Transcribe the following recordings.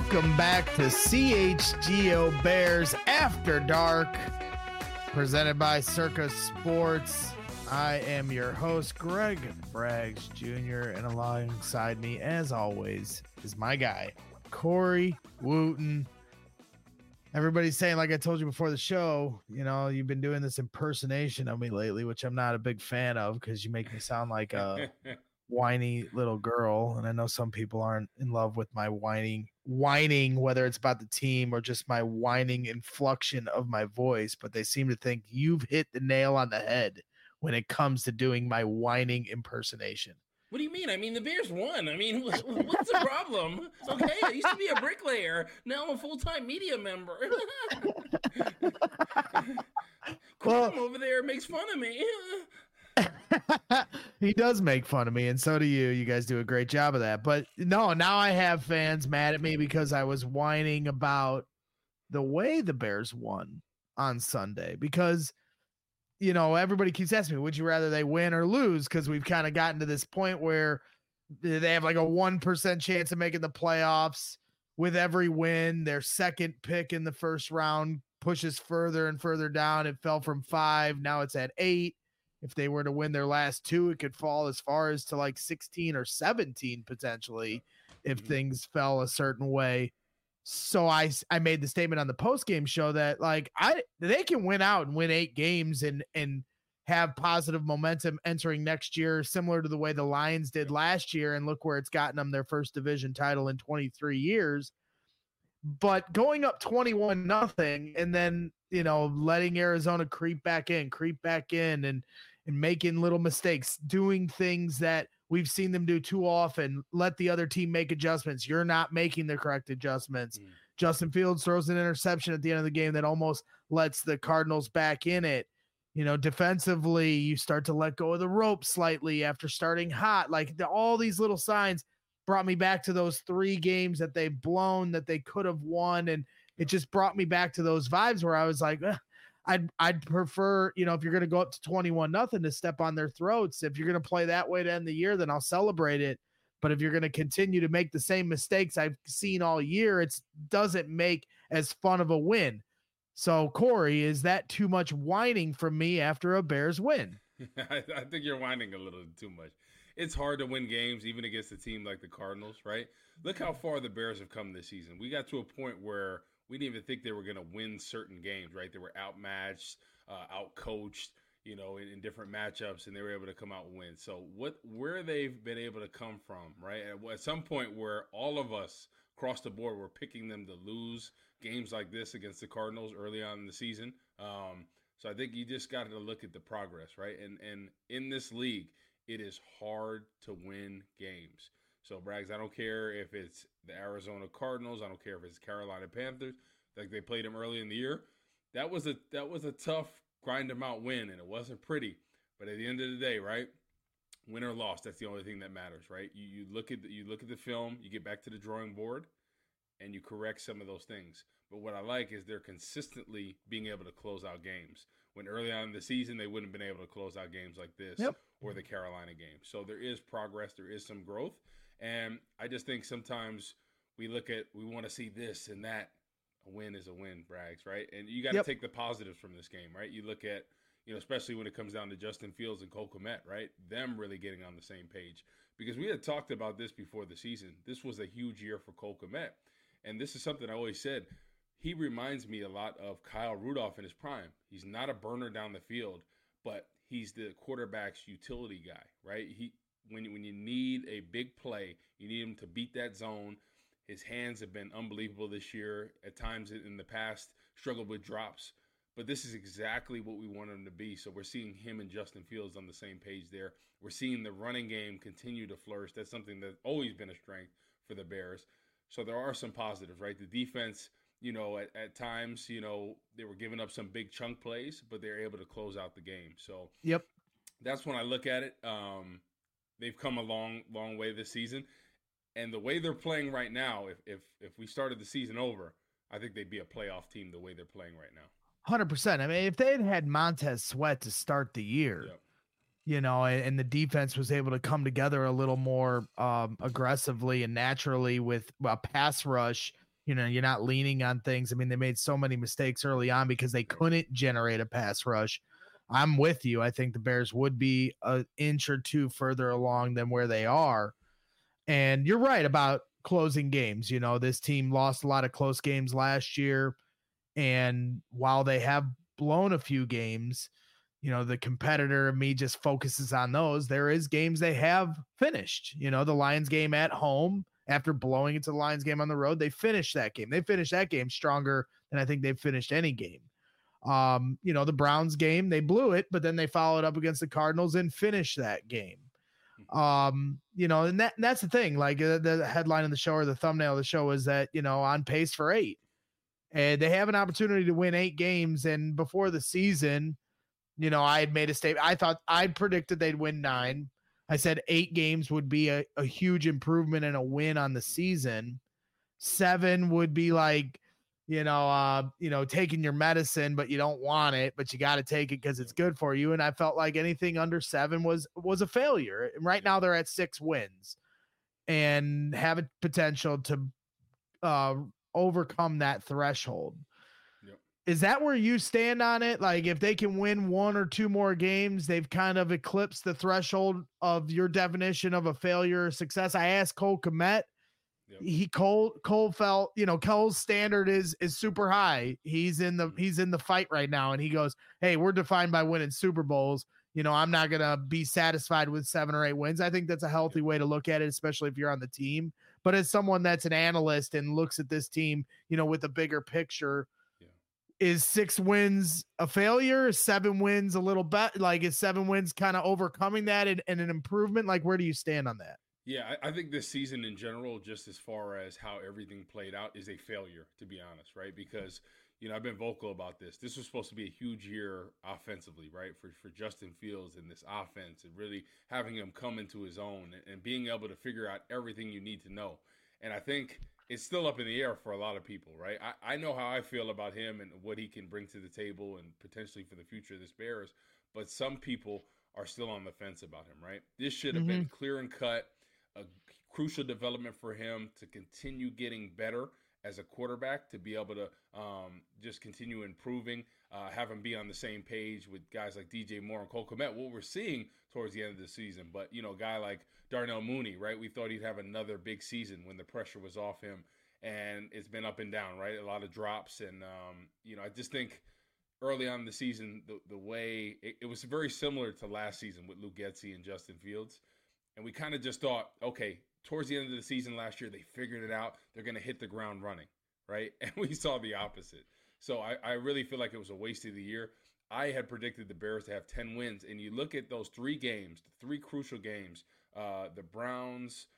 Welcome back to CHGO Bears After Dark, presented by Circus Sports. I am your host, Greg Braggs Jr., and alongside me, as always, is my guy, Corey Wooten. Everybody's saying, like I told you before the show, you know, you've been doing this impersonation of me lately, which I'm not a big fan of because you make me sound like a whiny little girl. And I know some people aren't in love with my whining, whether it's about the team or just my whining inflection of my voice, but they seem to think you've hit the nail on the head when it comes to doing my whining impersonation. What do you mean? I mean, the Bears won. I mean, what's the problem? It's okay. I used to be a bricklayer. Now I'm a full-time media member. Crum over there makes fun of me. He does make fun of me, and so do you. You guys do a great job of that. But no, now I have fans mad at me because I was whining about the way the Bears won on Sunday. Because, you know, everybody keeps asking me, would you rather they win or lose? Because we've kind of gotten to this point where they have like a 1% chance of making the playoffs. With every win, their second pick in the first round pushes further and further down. It fell from 5. Now it's at 8. If they were to win their last 2, it could fall as far as to like 16 or 17 potentially if things fell a certain way. So I made the statement on the post-game show that like they can win out and win 8 games and have positive momentum entering next year, similar to the way the Lions did last year, and look where it's gotten them their first division title in 23 years. But going up 21-0 and then, you know, letting Arizona creep back in and making little mistakes, doing things that we've seen them do too often, let the other team make adjustments. You're not making the correct adjustments. Justin Fields throws an interception at the end of the game that almost lets the Cardinals back in it. You know, defensively, you start to let go of the rope slightly after starting hot. Like all these little signs brought me back to those 3 games that they've blown that they could have won. And it just brought me back to those vibes where I was like, I'd prefer, you know, if you're going to go up to 21-0 to step on their throats. If you're going to play that way to end the year, then I'll celebrate it. But if you're going to continue to make the same mistakes I've seen all year, it doesn't make as fun of a win. So, Corey, is that too much whining from me after a Bears win? I think you're whining a little too much. It's hard to win games, even against a team like the Cardinals, right? Look how far the Bears have come this season. We got to a point where we didn't even think they were going to win certain games, right? They were outmatched, outcoached, you know, in different matchups, and they were able to come out and win. So where they've been able to come from, right? At some point where all of us across the board were picking them to lose games like this against the Cardinals early on in the season. So I think you just got to look at the progress, right? And in this league, it is hard to win games. So, Braggs, I don't care if it's the Arizona Cardinals. I don't care if it's Carolina Panthers. Like they played them early in the year. That was a tough grind them out win, and it wasn't pretty. But at the end of the day, right, win or loss, that's the only thing that matters, right? You look at the film, you get back to the drawing board, and you correct some of those things. But what I like is they're consistently being able to close out games. When early on in the season, they wouldn't have been able to close out games like this or the Carolina game. So there is progress. There is some growth. And I just think sometimes we want to see this and that. A win is a win, Braggs, right? And you got to take the positives from this game, right? You look at, you know, especially when it comes down to Justin Fields and Cole Kmet, right? Them really getting on the same page. Because we had talked about this before the season. This was a huge year for Cole Kmet. And this is something I always said. He reminds me a lot of Kyle Rudolph in his prime. He's not a burner down the field, but he's the quarterback's utility guy, right? When you need a big play, you need him to beat that zone. His hands have been unbelievable this year. At times in the past, struggled with drops. But this is exactly what we want him to be. So we're seeing him and Justin Fields on the same page there. We're seeing the running game continue to flourish. That's something that's always been a strength for the Bears. So there are some positives, right? The defense, you know, at times, you know, they were giving up some big chunk plays, but they're able to close out the game. So that's when I look at it. They've come a long, long way this season. And the way they're playing right now, if we started the season over, I think they'd be a playoff team the way they're playing right now. 100%. I mean, if they had Montez Sweat to start the year, you know, and the defense was able to come together a little more aggressively and naturally with a pass rush, You're not leaning on things. I mean, they made so many mistakes early on because they couldn't generate a pass rush. I'm with you. I think the Bears would be an inch or two further along than where they are. And you're right about closing games. This team lost a lot of close games last year. And while they have blown a few games, the competitor in me just focuses on those. There is games they have finished. The Lions game at home, after blowing it to the Lions game on the road, they finished that game. They finished that game stronger than I think they've finished any game. The Browns game, they blew it, but then they followed up against the Cardinals and finished that game. And that's the thing. Like the headline of the show or the thumbnail of the show is that, on pace for 8. And they have an opportunity to win 8 games. And before the season, I had made a statement. I predicted they'd win 9. I said 8 games would be a huge improvement and a win on the season. 7 would be like, taking your medicine, but you don't want it, but you got to take it because it's good for you. And I felt like anything under 7 was a failure. And right now they're at 6 wins and have a potential to overcome that threshold. Is that where you stand on it? Like if they can win 1 or 2 more games, they've kind of eclipsed the threshold of your definition of a failure or success. I asked Cole Kmet. Yep. Cole felt, Cole's standard is super high. He's in the fight right now. And he goes, hey, we're defined by winning Super Bowls. I'm not going to be satisfied with 7 or 8 wins. I think that's a healthy way to look at it, especially if you're on the team. But as someone that's an analyst and looks at this team, with a bigger picture, is 6 wins a failure? Is 7 wins a little better? Like is 7 wins kind of overcoming that and an improvement? Like where do you stand on that? Yeah, I think this season in general, just as far as how everything played out, is a failure, to be honest, right? Because, I've been vocal about this. This was supposed to be a huge year offensively, right? For Justin Fields and this offense and really having him come into his own and being able to figure out everything you need to know. And I think it's still up in the air for a lot of people, right? I know how I feel about him and what he can bring to the table and potentially for the future of this Bears, but some people are still on the fence about him, right? This should have been clear and cut. A crucial development for him to continue getting better as a quarterback, to be able to just continue improving, have him be on the same page with guys like DJ Moore and Cole Kmet, what we're seeing towards the end of the season. But, a guy like Darnell Mooney, right? We thought he'd have another big season when the pressure was off him, and it's been up and down, right? A lot of drops. And, I just think early on in the season, the way it was very similar to last season with Luke Getsy and Justin Fields. And we kind of just thought, okay, towards the end of the season last year, they figured it out. They're going to hit the ground running, right? And we saw the opposite. So I really feel like it was a waste of the year. I had predicted the Bears to have 10 wins. And you look at those 3 games, the 3 crucial games, the Browns,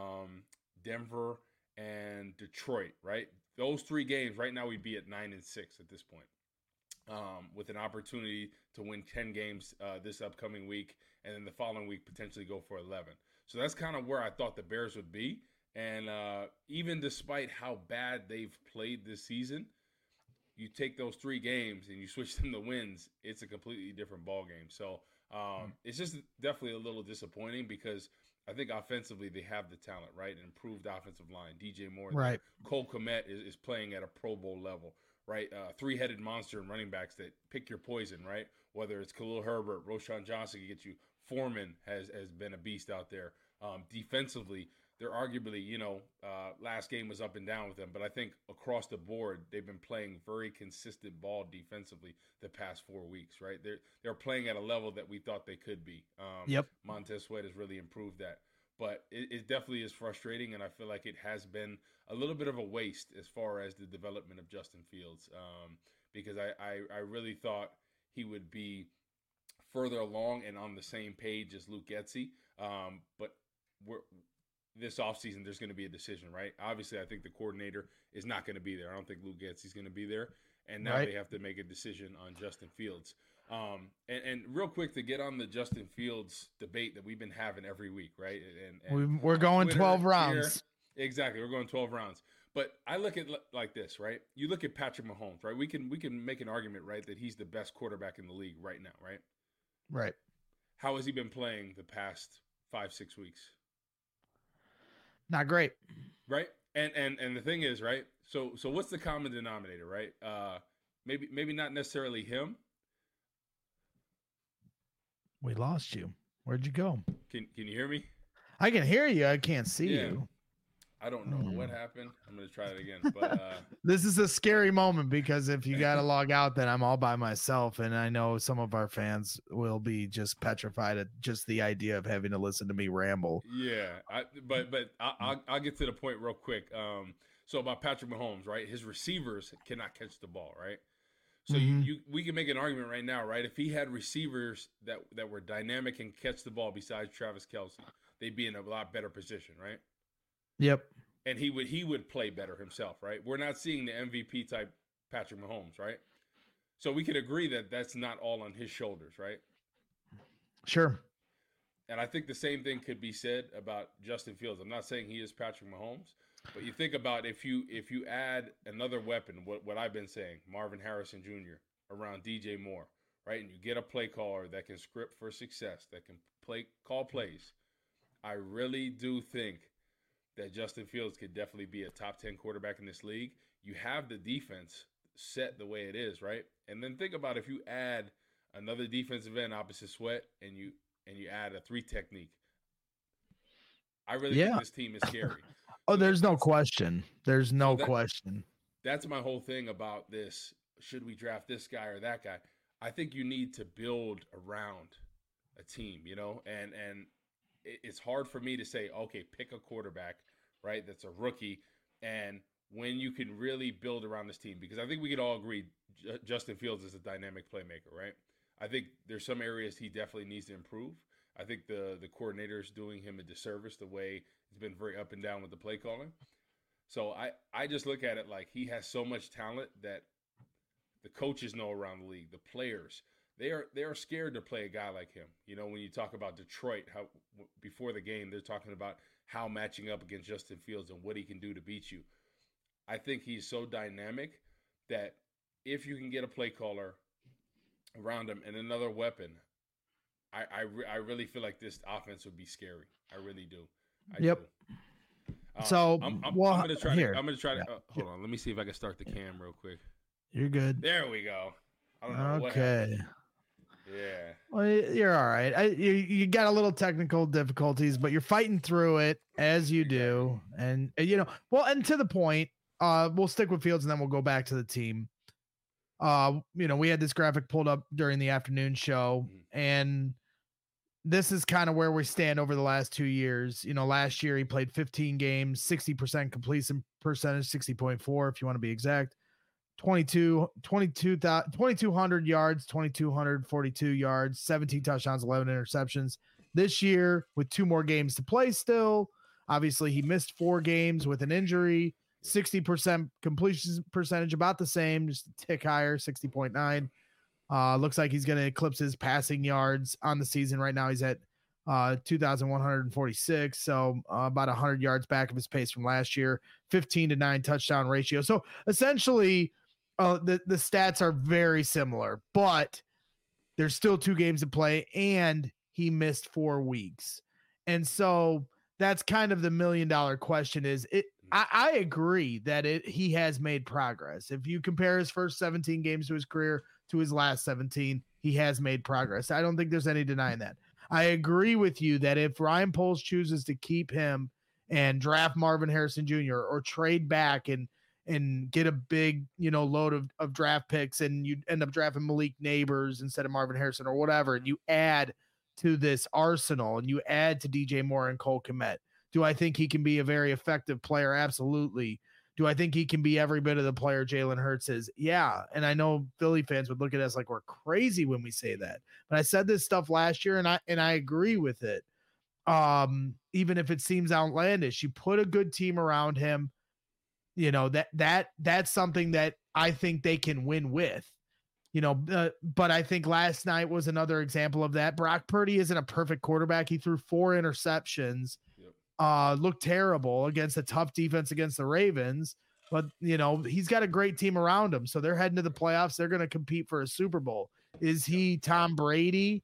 Denver, and Detroit, right? Those 3 games, right now we'd be at 9-6 at this point. With an opportunity to win 10 games this upcoming week, and then the following week potentially go for 11. So that's kind of where I thought the Bears would be. And even despite how bad they've played this season, you take those 3 games and you switch them to wins, it's a completely different ball game. So it's just definitely a little disappointing because I think offensively they have the talent, right? An improved offensive line. DJ Moore, right? Cole Kmet is playing at a Pro Bowl level. Right, 3-headed monster and running backs that pick your poison, right? Whether it's Khalil Herbert, Roschon Johnson can get you. Foreman has been a beast out there. Defensively, they're arguably, last game was up and down with them, but I think across the board they've been playing very consistent ball defensively the past 4 weeks, right? They're playing at a level that we thought they could be. Montez Sweat has really improved that. But it definitely is frustrating, and I feel like it has been a little bit of a waste as far as the development of Justin Fields, because I really thought he would be further along and on the same page as Luke Getsy. But this offseason, there's going to be a decision, right? Obviously, I think the coordinator is not going to be there. I don't think Luke Getsy's going to be there. And now they have to make a decision on Justin Fields. And real quick to get on the Justin Fields debate that we've been having every week, right? And we're going Twitter, 12 rounds. Here, exactly. We're going 12 rounds. But I look at it like this, right? You look at Patrick Mahomes, right? We can make an argument, right, that he's the best quarterback in the league right now, right? Right. How has he been playing the past 5-6 weeks? Not great. right? And the thing is, right? So what's the common denominator, right? Maybe not necessarily him. We lost you. Where'd you go? Can you hear me? I can hear you. I can't see Yeah. you. I don't know what happened. I'm gonna try it again. But this is a scary moment because if you got to log out, then I'm all by myself, and I know some of our fans will be just petrified at just the idea of having to listen to me ramble. Yeah, but I'll get to the point real quick. So about Patrick Mahomes, right? His receivers cannot catch the ball, right? So we can make an argument right now, right? If he had receivers that were dynamic and catch the ball besides Travis Kelce, they'd be in a lot better position, right? Yep. And he would play better himself, right? We're not seeing the MVP type Patrick Mahomes, right? So we could agree that that's not all on his shoulders, right? Sure. And I think the same thing could be said about Justin Fields. I'm not saying he is Patrick Mahomes, but you think about if you add another weapon, what I've been saying, Marvin Harrison Jr. around DJ Moore, right? And you get a play caller that can script for success, that can call plays. I really do think that Justin Fields could definitely be a top 10 quarterback in this league. You have the defense set the way it is, right? And then think about if you add another defensive end opposite Sweat and you add a 3 technique. I really think this team is scary. Oh, there's no question. There's no question. That's my whole thing about this. Should we draft this guy or that guy? I think you need to build around a team, you know, and it's hard for me to say, okay, pick a quarterback, right? That's a rookie. And when you can really build around this team, because I think we could all agree Justin Fields is a dynamic playmaker, right? I think there's some areas he definitely needs to improve. I think the coordinator is doing him a disservice the way he's been very up and down with the play calling. So I just look at it like he has so much talent that the coaches know around the league, the players, they are scared to play a guy like him. You know, when you talk about Detroit, how before the game they're talking about how matching up against Justin Fields and what he can do to beat you. I think he's so dynamic that if you can get a play caller around him and another weapon, I really feel like this offense would be scary. I really do. I do. So I'm gonna try. Hold on. Let me see if I can start the cam real quick. You're good. There we go. I don't know what happened. Yeah. Well, you're all right. You got a little technical difficulties, but you're fighting through it as you do. And and to the point, we'll stick with Fields and then we'll go back to the team. We had this graphic pulled up during the afternoon show, and this is kind of where we stand over the last 2 years. Last year he played 15 games, 60% completion percentage, 60.4 if you want to be exact. 2,200 yards, 2,242 yards, 17 touchdowns, 11 interceptions. This year, with 2 more games to play still, obviously he missed 4 games with an injury, 60% completion percentage, about the same, just a tick higher, 60.9. Looks like he's going to eclipse his passing yards on the season. Right now he's at 2,146, so about 100 yards back of his pace from last year, 15-9 touchdown ratio. So essentially, the stats are very similar, but there's still 2 games to play, and he missed 4 weeks. And so that's kind of the $1 million question is it. I agree that he has made progress. If you compare his first 17 games to his career to his last 17, he has made progress. I don't think there's any denying that. I agree with you that if Ryan Poles chooses to keep him and draft Marvin Harrison Jr. or trade back and get a big, load of draft picks, and you end up drafting Malik Neighbors instead of Marvin Harrison or whatever, and you add to this arsenal and you add to DJ Moore and Cole Kmet, do I think he can be a very effective player? Absolutely. Do I think he can be every bit of the player Jalen Hurts is? Yeah. And I know Philly fans would look at us like we're crazy when we say that, but I said this stuff last year and I agree with it. Even if it seems outlandish, you put a good team around him, that's something that I think they can win with, but I think last night was another example of that. Brock Purdy isn't a perfect quarterback. He threw 4 interceptions. Looked terrible against a tough defense against the Ravens, but he's got a great team around him. So they're heading to the playoffs. They're going to compete for a Super Bowl. Is he Tom Brady?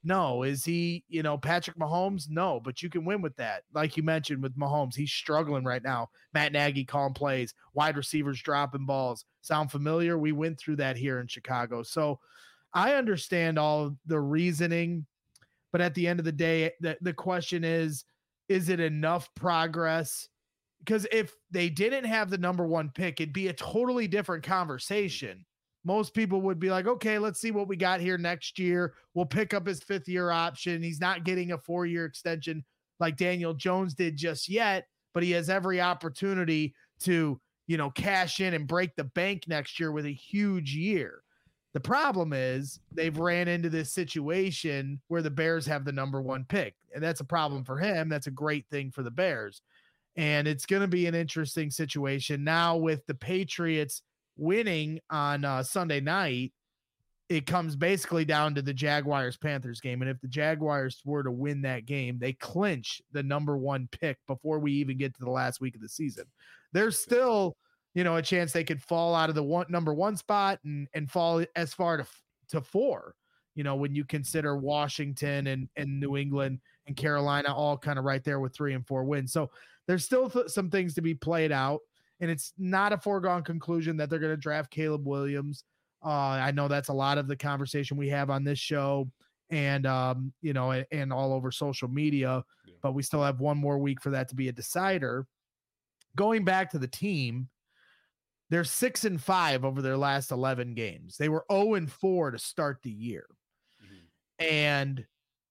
No. Is he, Patrick Mahomes? No, but you can win with that. Like you mentioned with Mahomes, he's struggling right now. Matt Nagy calling plays, wide receivers dropping balls. Sound familiar? We went through that here in Chicago. So I understand all the reasoning, but at the end of the day, the question is it enough progress? Because if they didn't have the number one pick, it'd be a totally different conversation. Most people would be like, okay, let's see what we got here next year. We'll pick up his 5th-year option. He's not getting a 4-year extension like Daniel Jones did just yet, but he has every opportunity to, cash in and break the bank next year with a huge year. The problem is they've ran into this situation where the Bears have the number one pick, and that's a problem for him. That's a great thing for the Bears. And it's going to be an interesting situation now with the Patriots winning on Sunday night. It comes basically down to the Jaguars-Panthers game. And if the Jaguars were to win that game, they clinch the number one pick before we even get to the last week of the season. There's still, a chance they could fall out of the number one spot and fall as far to 4, when you consider Washington and New England and Carolina all kind of right there with 3 and 4 wins. So there's still some things to be played out, and it's not a foregone conclusion that they're going to draft Caleb Williams. I know that's a lot of the conversation we have on this show and, and all over social media, but we still have one more week for that to be a decider. Going back to the team, they're 6-5 over their last 11 games. They were 0-4 to start the year. Mm-hmm. And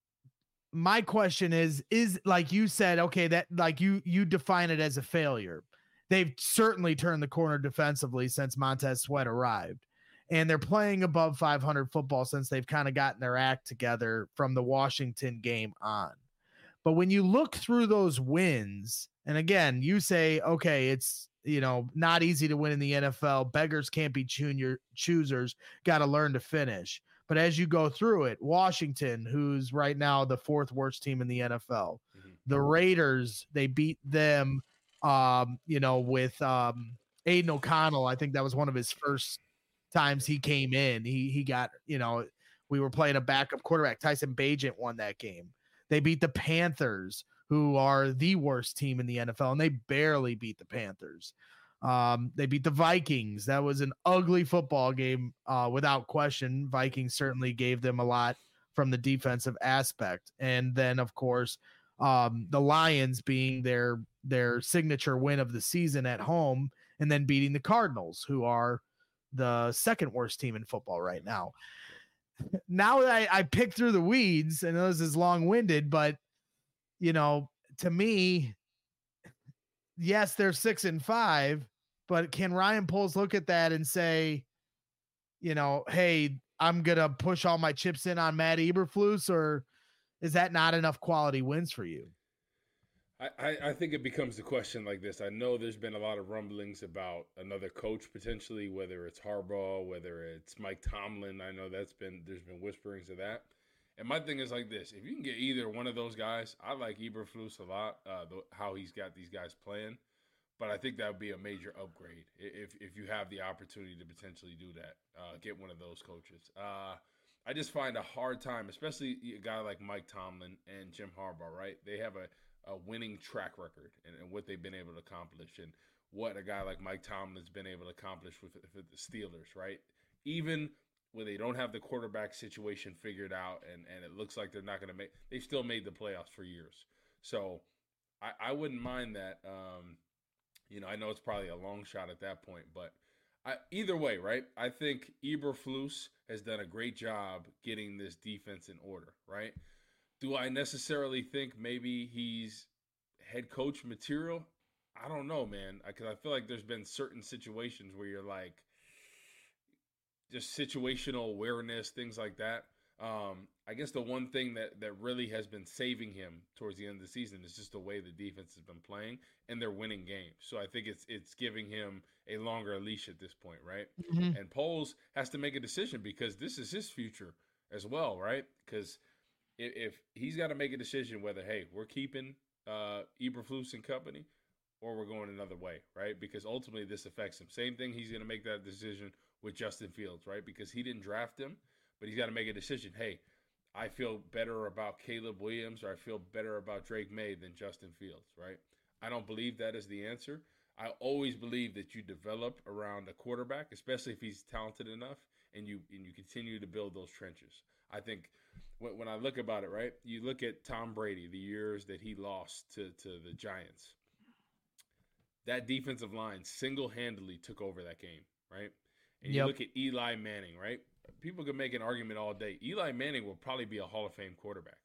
my question is like you said, okay, that like you define it as a failure. They've certainly turned the corner defensively since Montez Sweat arrived, and they're playing above 500 football since they've kind of gotten their act together from the Washington game on. But when you look through those wins, and again, you say, okay, it's, not easy to win in the NFL. Beggars can't be choosers. Got to learn to finish. But as you go through it, Washington, who's right now the 4th worst team in the NFL, mm-hmm. the Raiders, they beat them, with Aiden O'Connell. I think that was one of his first times he came in. He got, we were playing a backup quarterback. Tyson Bagent won that game. They beat the Panthers, who are the worst team in the NFL, and they barely beat the Panthers. They beat the Vikings. That was an ugly football game, without question. Vikings certainly gave them a lot from the defensive aspect. And then, of course, the Lions being their signature win of the season at home, and then beating the Cardinals, who are the 2nd worst team in football right now. Now that I picked through the weeds, and this is long-winded, but to me, yes, they're 6-5, but can Ryan Poles look at that and say, hey, I'm going to push all my chips in on Matt Eberflus, or is that not enough quality wins for you? I think it becomes a question like this. I know there's been a lot of rumblings about another coach potentially, whether it's Harbaugh, whether it's Mike Tomlin. I know there's been whisperings of that. And my thing is like this: if you can get either one of those guys, I like Eberflus a lot. How he's got these guys playing, but I think that would be a major upgrade if you have the opportunity to potentially do that. Get one of those coaches. I just find a hard time, especially a guy like Mike Tomlin and Jim Harbaugh. Right? They have a winning track record and what they've been able to accomplish, and what a guy like Mike Tomlin's been able to accomplish with the Steelers. Right? Even where they don't have the quarterback situation figured out, and it looks like they're not going to they've still made the playoffs for years. So I wouldn't mind that. I know it's probably a long shot at that point, but either way, right? I think Eberflus has done a great job getting this defense in order, right? Do I necessarily think maybe he's head coach material? I don't know, man, because I feel like there's been certain situations where you're like, just situational awareness, things like that. I guess the one thing that really has been saving him towards the end of the season is just the way the defense has been playing, and they're winning games. So I think it's giving him a longer leash at this point, right? Mm-hmm. And Poles has to make a decision because this is his future as well, right? Because if he's got to make a decision whether, hey, we're keeping Eberflus and company, or we're going another way, right? Because ultimately this affects him. Same thing, he's going to make that decision with Justin Fields, right? Because he didn't draft him, but he's got to make a decision. Hey, I feel better about Caleb Williams or I feel better about Drake May than Justin Fields, right? I don't believe that is the answer. I always believe that you develop around a quarterback, especially if he's talented enough, and you continue to build those trenches. I think when I look about it, right, you look at Tom Brady, the years that he lost to the Giants. That defensive line single-handedly took over that game, right? And you look at Eli Manning, right? People can make an argument all day. Eli Manning will probably be a Hall of Fame quarterback.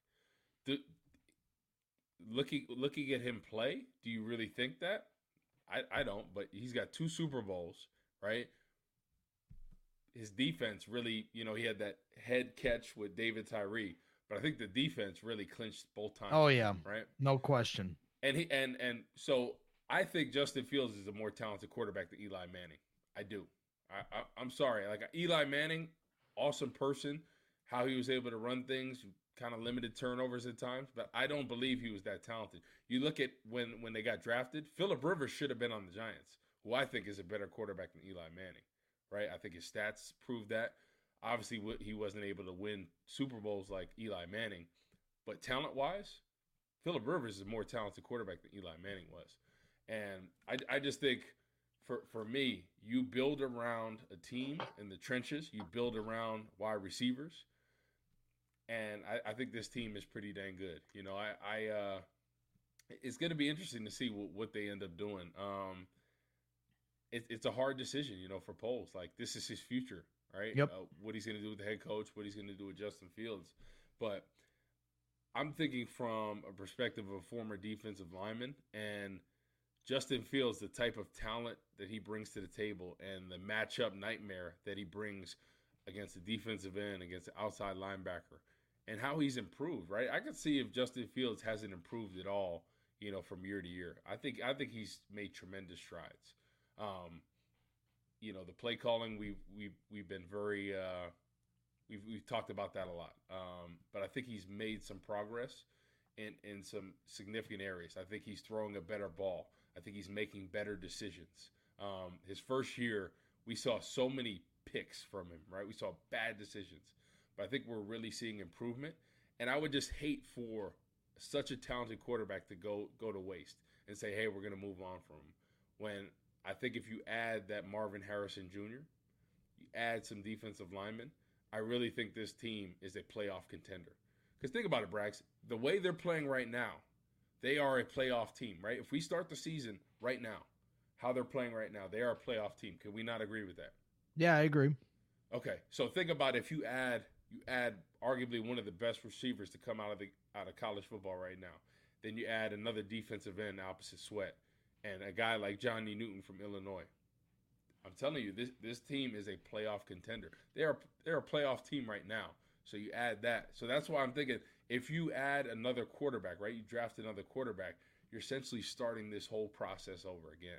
Looking at him play, do you really think that? I don't, but he's got 2 Super Bowls, right? His defense really, he had that head catch with David Tyree, but I think the defense really clinched both times. Oh yeah, right? No question. And so I think Justin Fields is a more talented quarterback than Eli Manning. I do. I'm sorry. Like Eli Manning, awesome person, how he was able to run things, kind of limited turnovers at times, but I don't believe he was that talented. You look at when they got drafted, Phillip Rivers should have been on the Giants, who I think is a better quarterback than Eli Manning, right? I think his stats prove that. Obviously, he wasn't able to win Super Bowls like Eli Manning, but talent-wise, Phillip Rivers is a more talented quarterback than Eli Manning was. And I just think for me, you build around a team in the trenches, you build around wide receivers, and I think this team is pretty dang good. It's going to be interesting to see what they end up doing. It's a hard decision, for Poles. Like, this is his future, right? Yep. What he's going to do with the head coach, what he's going to do with Justin Fields. But I'm thinking from a perspective of a former defensive lineman, and Justin Fields, the type of talent that he brings to the table and the matchup nightmare that he brings against the defensive end, against the outside linebacker, and how he's improved, right? I could see if Justin Fields hasn't improved at all, from year to year. I think he's made tremendous strides. The play calling, we've been very we've talked about that a lot. But I think he's made some progress in some significant areas. I think he's throwing a better ball. I think he's making better decisions. His first year, we saw so many picks from him, right? We saw bad decisions. But I think we're really seeing improvement. And I would just hate for such a talented quarterback to go to waste and say, hey, we're going to move on from him. When I think if you add that Marvin Harrison Jr., you add some defensive linemen, I really think this team is a playoff contender. Because think about it, Brax. The way they're playing right now, they are a playoff team, right? If we start the season right now, how they're playing right now, they are a playoff team. Can we not agree with that? Yeah, I agree. Okay, so think about if you add arguably one of the best receivers to come out of college football right now. Then you add another defensive end opposite Sweat and a guy like Johnny Newton from Illinois. I'm telling you, this team is a playoff contender. They're a playoff team right now. So you add that. So that's why I'm thinking if you add another quarterback, right? You draft another quarterback, you're essentially starting this whole process over again.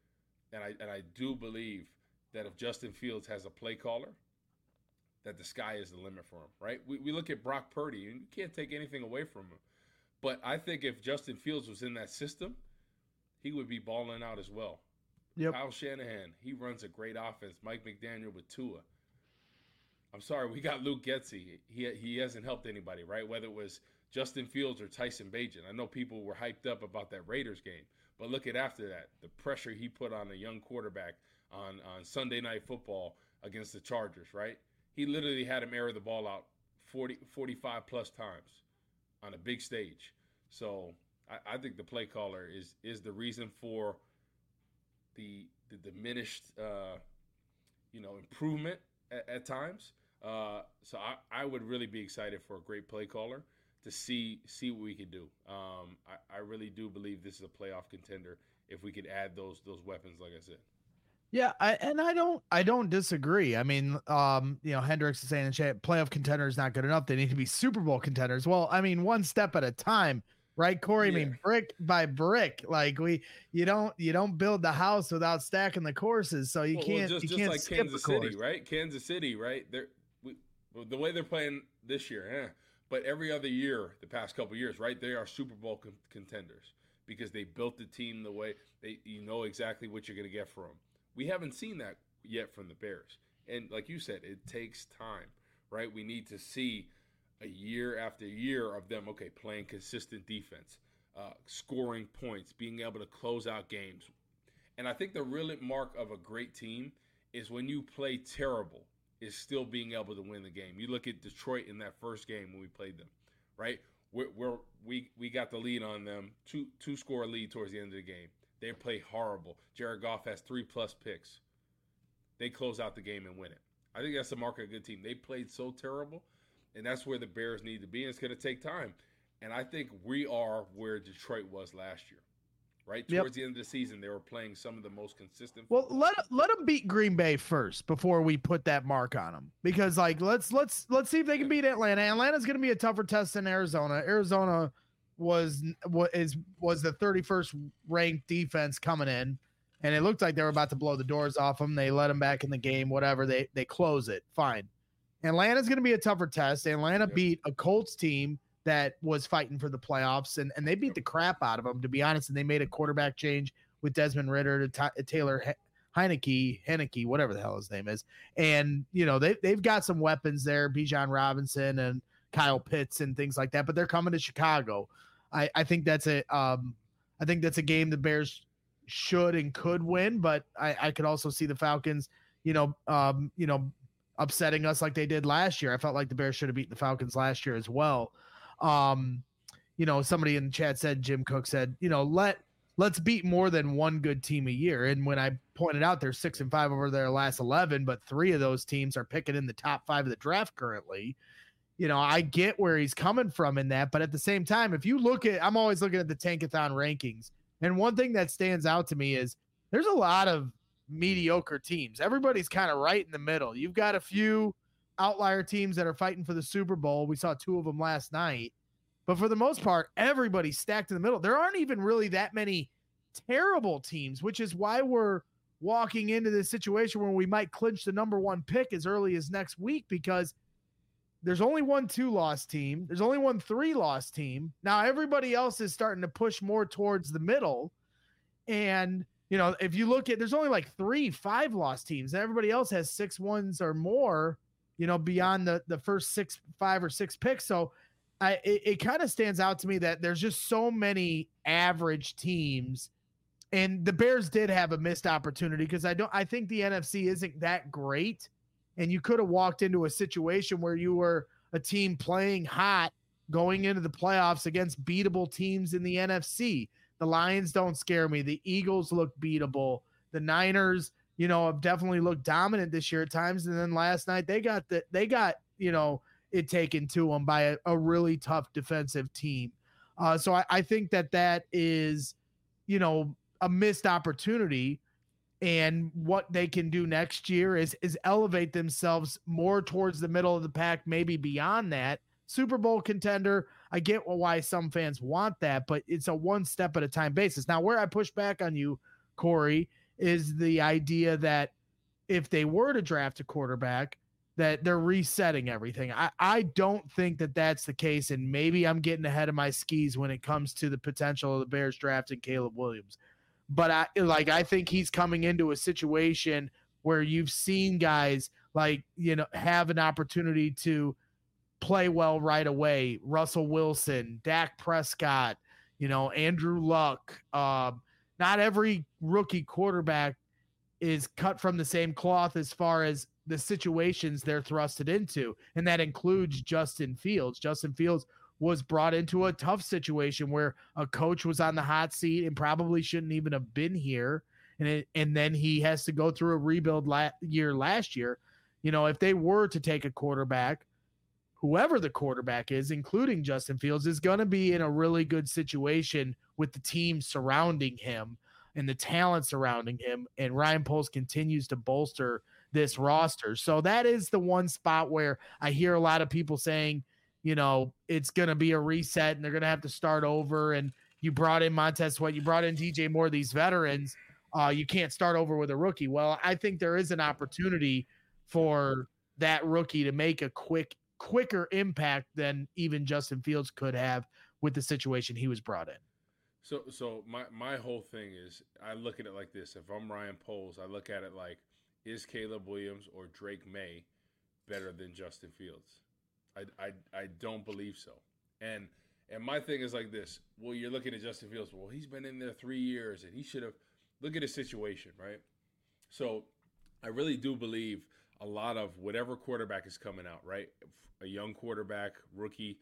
And I do believe that if Justin Fields has a play caller, that the sky is the limit for him, right? We look at Brock Purdy, and you can't take anything away from him. But I think if Justin Fields was in that system, he would be balling out as well. Yep. Kyle Shanahan, he runs a great offense. Mike McDaniel with Tua. I'm sorry, we got Luke Getsy. He hasn't helped anybody, right? Whether it was Justin Fields or Tyson Bagent. I know people were hyped up about that Raiders game. But look at after that, the pressure he put on a young quarterback on Sunday Night Football against the Chargers, right? He literally had him air the ball out 45 plus times on a big stage. So I think the play caller is the reason for the diminished improvement at times. So I would really be excited for a great play caller to see what we can do. I really do believe this is a playoff contender if we could add those weapons, like I said. Yeah, I don't disagree. I mean, Hendricks is saying in chat, playoff contender is not good enough. They need to be Super Bowl contenders. Well, I mean, one step at a time, right, Corey? Yeah. I mean, brick by brick. Like you don't build the house without stacking the courses. So you can't just can't like Kansas City, right? Kansas City, right? The way they're playing this year, but every other year, the past couple of years, right? They are Super Bowl contenders because they built the team the way you know exactly what you're going to get from them. We haven't seen that yet from the Bears. And like you said, it takes time, right? We need to see a year after year of them, okay, playing consistent defense, scoring points, being able to close out games. And I think the real mark of a great team is when you play terrible, is still being able to win the game. You look at Detroit in that first game when we played them, right? We got the lead on them, two score lead towards the end of the game. They play horrible. Jared Goff has 3+ picks. They close out the game and win it. I think that's the mark of a good team. They played so terrible, and that's where the Bears need to be, and it's going to take time. And I think we are where Detroit was last year, right? Towards the end of the season, they were playing some of the most consistent. Well, let them beat Green Bay first before we put that mark on them, because like let's see if they can beat Atlanta. Atlanta's going to be a tougher test than Arizona. Arizona was the 31st ranked defense coming in, and it looked like they were about to blow the doors off them. They let them back in the game. Whatever, they close it. Fine. Atlanta's going to be a tougher test. Atlanta beat a Colts team that was fighting for the playoffs, and they beat the crap out of them, to be honest. And they made a quarterback change with Desmond Ridder to Taylor Heineke, whatever the hell his name is. And, you know, they've got some weapons there, Bijan Robinson and Kyle Pitts and things like that, but they're coming to Chicago. I think that's a game the Bears should and could win, but I could also see the Falcons, upsetting us like they did last year. I felt like the Bears should have beaten the Falcons last year as well. Somebody in the chat said, Jim Cook said, let's beat more than one good team a year. And when I pointed out they're 6-5 over their last 11, but 3 of those teams are picking in the top 5 of the draft currently. I get where he's coming from in that, but at the same time, if you look at, I'm always looking at the Tankathon rankings. And one thing that stands out to me is there's a lot of mediocre teams. Everybody's kind of right in the middle. You've got a few outlier teams that are fighting for the Super Bowl. We saw 2 of them last night, but for the most part, everybody's stacked in the middle. There aren't even really that many terrible teams, which is why we're walking into this situation where we might clinch the number 1 pick as early as next week, because there's only 1 2-loss team. There's only 1 3-loss team. Now everybody else is starting to push more towards the middle. And, if you look at, there's only like 3 5-loss teams. Everybody else has 6 1s or more, beyond the first 5 or 6 picks. So it kind of stands out to me that there's just so many average teams, and the Bears did have a missed opportunity, because I think the NFC isn't that great. And you could have walked into a situation where you were a team playing hot going into the playoffs against beatable teams in the NFC. The Lions don't scare me. The Eagles look beatable. The Niners, have definitely looked dominant this year at times. And then last night they got it taken to them by a really tough defensive team. So I think that is, a missed opportunity. And what they can do next year is elevate themselves more towards the middle of the pack, maybe beyond that. Super Bowl contender, I get why some fans want that, but it's a one step at a time basis. Now, where I push back on you, Corey, is the idea that if they were to draft a quarterback, that they're resetting everything. I don't think that that's the case, and maybe I'm getting ahead of my skis when it comes to the potential of the Bears drafting Caleb Williams. But I think he's coming into a situation where you've seen guys have an opportunity to play well right away. Russell Wilson, Dak Prescott, Andrew Luck. Not every rookie quarterback is cut from the same cloth as far as the situations they're thrusted into. And that includes Justin Fields. Justin Fields was brought into a tough situation where a coach was on the hot seat and probably shouldn't even have been here. And then he has to go through a rebuild last year. If they were to take a quarterback, whoever the quarterback is, including Justin Fields, is going to be in a really good situation with the team surrounding him and the talent surrounding him. And Ryan Poles continues to bolster this roster. So that is the one spot where I hear a lot of people saying, it's going to be a reset and they're going to have to start over. And you brought in Montez Sweat, you brought in DJ Moore, these veterans. You can't start over with a rookie. Well, I think there is an opportunity for that rookie to make a quicker impact than even Justin Fields could have with the situation he was brought in. So my whole thing is, I look at it like this. If I'm Ryan Poles, I look at it like, is Caleb Williams or Drake May better than Justin Fields? I don't believe so. And my thing is like this. Well, you're looking at Justin Fields. Well, he's been in there 3 years, and he should have. Look at his situation, right? So I really do believe a lot of whatever quarterback is coming out, right? A young quarterback, rookie,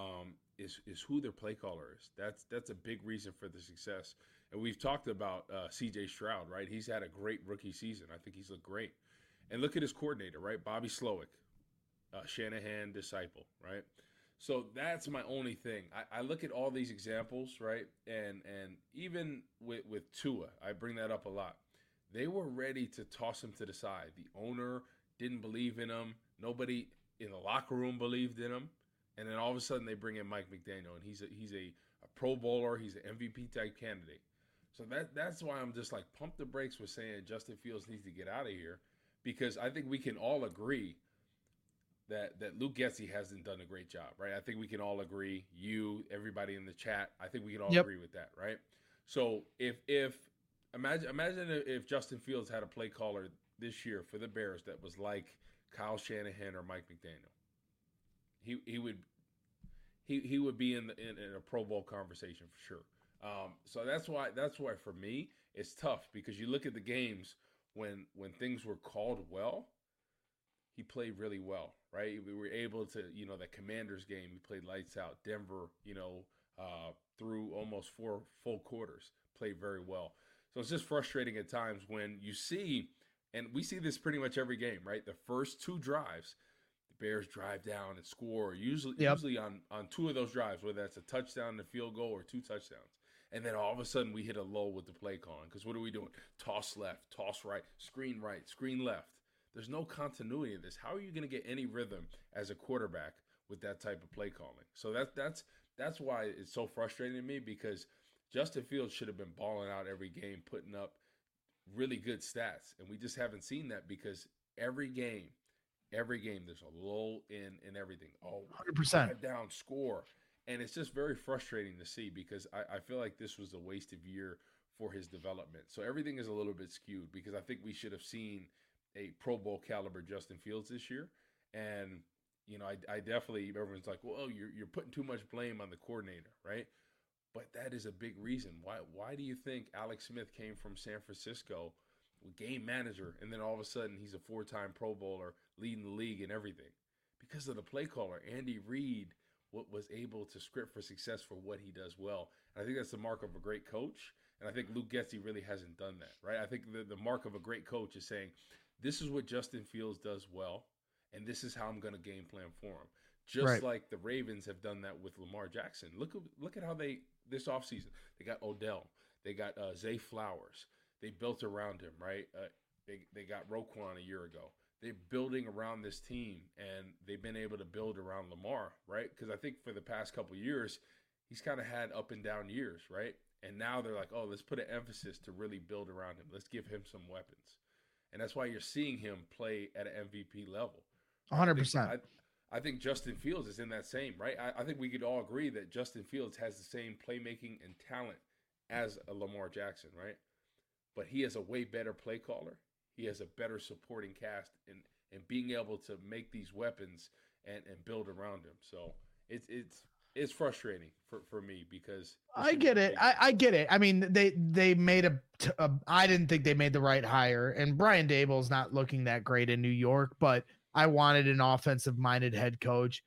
is who their play caller is. That's a big reason for the success. And we've talked about C.J. Stroud, right? He's had a great rookie season. I think he's looked great. And look at his coordinator, right? Bobby Slowick, Shanahan disciple, right? So that's my only thing. I look at all these examples, right? And even with Tua, I bring that up a lot. They were ready to toss him to the side. The owner didn't believe in him. Nobody in the locker room believed in him. And then all of a sudden they bring in Mike McDaniel, and he's a Pro Bowler. He's an MVP type candidate. So that's why I'm just like pump the brakes with saying Justin Fields needs to get out of here, because I think we can all agree that Luke Getsy hasn't done a great job, right? I think we can all agree, you, everybody in the chat, I think we can all agree with that, right? So if imagine if Justin Fields had a play caller this year for the Bears that was like Kyle Shanahan or Mike McDaniel, he would be in a Pro Bowl conversation for sure. So that's why for me it's tough, because you look at the games when things were called well, he played really well, right? We were able to, that Commanders game, he played lights out. Denver, through almost 4 full quarters, played very well. So it's just frustrating at times when you see, and we see this pretty much every game, right? The first 2 drives, the Bears drive down and score, usually on 2 of those drives, whether that's a touchdown, a field goal, or 2 touchdowns. And then all of a sudden we hit a lull with the play calling, because what are we doing? Toss left, toss right, screen left. There's no continuity in this. How are you going to get any rhythm as a quarterback with that type of play calling? So that's why it's so frustrating to me, because Justin Fields should have been balling out every game, putting up really good stats. And we just haven't seen that, because every game, there's a lull in everything. 100%. Drive down, score. And it's just very frustrating to see, because I feel like this was a wasted year for his development. So everything is a little bit skewed, because I think we should have seen a Pro Bowl caliber Justin Fields this year. And, I definitely, everyone's like, well, you're putting too much blame on the coordinator, right? But that is a big reason. Why do you think Alex Smith came from San Francisco, game manager, and then all of a sudden he's a 4-time Pro Bowler, leading the league and everything? Because of the play caller. Andy Reid was able to script for success for what he does well. And I think that's the mark of a great coach. And I think Luke Getsy really hasn't done that, right? I think the mark of a great coach is saying, this is what Justin Fields does well, and this is how I'm going to game plan for him. Just like the Ravens have done that with Lamar Jackson. Look at how this offseason, they got Odell. They got Zay Flowers. They built around him, right? They got Roquan a year ago. They're building around this team, and they've been able to build around Lamar, right? Because I think for the past couple of years, he's kind of had up and down years, right? And now they're like, oh, let's put an emphasis to really build around him. Let's give him some weapons. And that's why you're seeing him play at an MVP level. 100%. I think Justin Fields is in that same, right? I think we could all agree that Justin Fields has the same playmaking and talent as a Lamar Jackson, right? But he is a way better play caller. He has a better supporting cast and being able to make these weapons and build around him. So it's frustrating for me, because I get it. I get it. I mean, they made I didn't think they made the right hire, and Brian Daboll's not looking that great in New York, but I wanted an offensive minded head coach.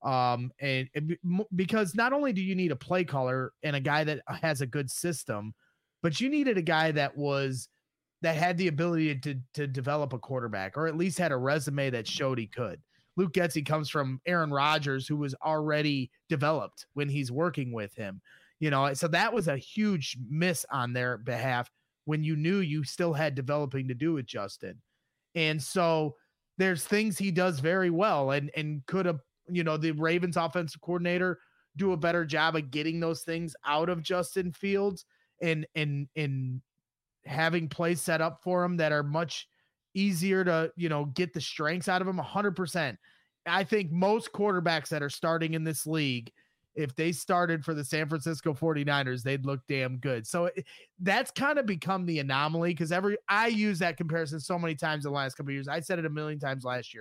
Because not only do you need a play caller and a guy that has a good system, but you needed a guy that had the ability to develop a quarterback, or at least had a resume that showed he could. Luke Getsy comes from Aaron Rodgers, who was already developed when he's working with him, so that was a huge miss on their behalf, when you knew you still had developing to do with Justin. And so there's things he does very well, and could have, the Ravens offensive coordinator do a better job of getting those things out of Justin Fields and having plays set up for him that are much easier to, get the strengths out of him. 100%. I think most quarterbacks that are starting in this league, if they started for the San Francisco 49ers, they'd look damn good. So that's kind of become the anomaly, because I use that comparison so many times in the last couple of years. I said it a million times last year.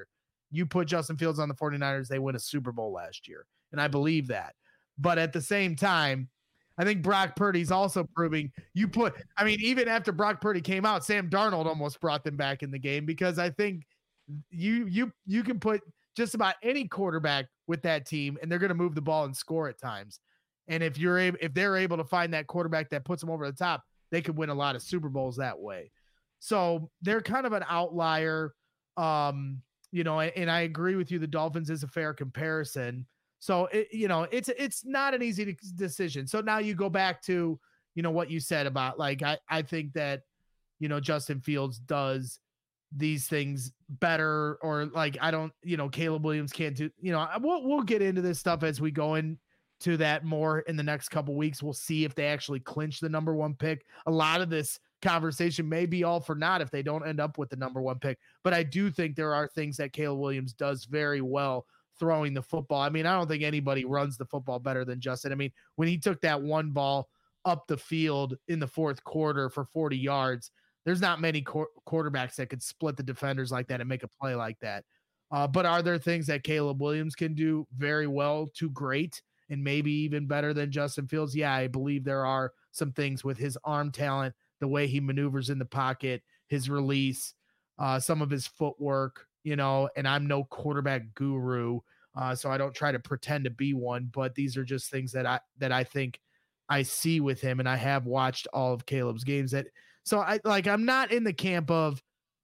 you put Justin Fields on the 49ers, they win a Super Bowl last year. And I believe that. But at the same time, I think Brock Purdy's also proving even after Brock Purdy came out, Sam Darnold almost brought them back in the game, because I think you can put just about any quarterback with that team and they're going to move the ball and score at times. And if they're able to find that quarterback that puts them over the top, they could win a lot of Super Bowls that way. So they're kind of an outlier. And I agree with you. The Dolphins is a fair comparison. So it's not an easy decision. So now you go back to, what you said about, like, I think that, Justin Fields does these things better, or like, I don't, Caleb Williams can't do, we'll get into this stuff as we go into that more in the next couple weeks. We'll see if they actually clinch the number 1 pick. A lot of this conversation may be all for naught if they don't end up with the number 1 pick, but I do think there are things that Caleb Williams does very well throwing the football. I mean, I don't think anybody runs the football better than Justin. I mean, when he took that one ball up the field in the fourth quarter for 40 yards, there's not many quarterbacks that could split the defenders like that and make a play like that. But are there things that Caleb Williams can do very well to great and maybe even better than Justin Fields? Yeah, I believe there are some things with his arm talent, the way he maneuvers in the pocket, his release, some of his footwork, and I'm no quarterback guru, so I don't try to pretend to be one, but these are just things that I think I see with him, and I have watched all of Caleb's games. I'm not in the camp of,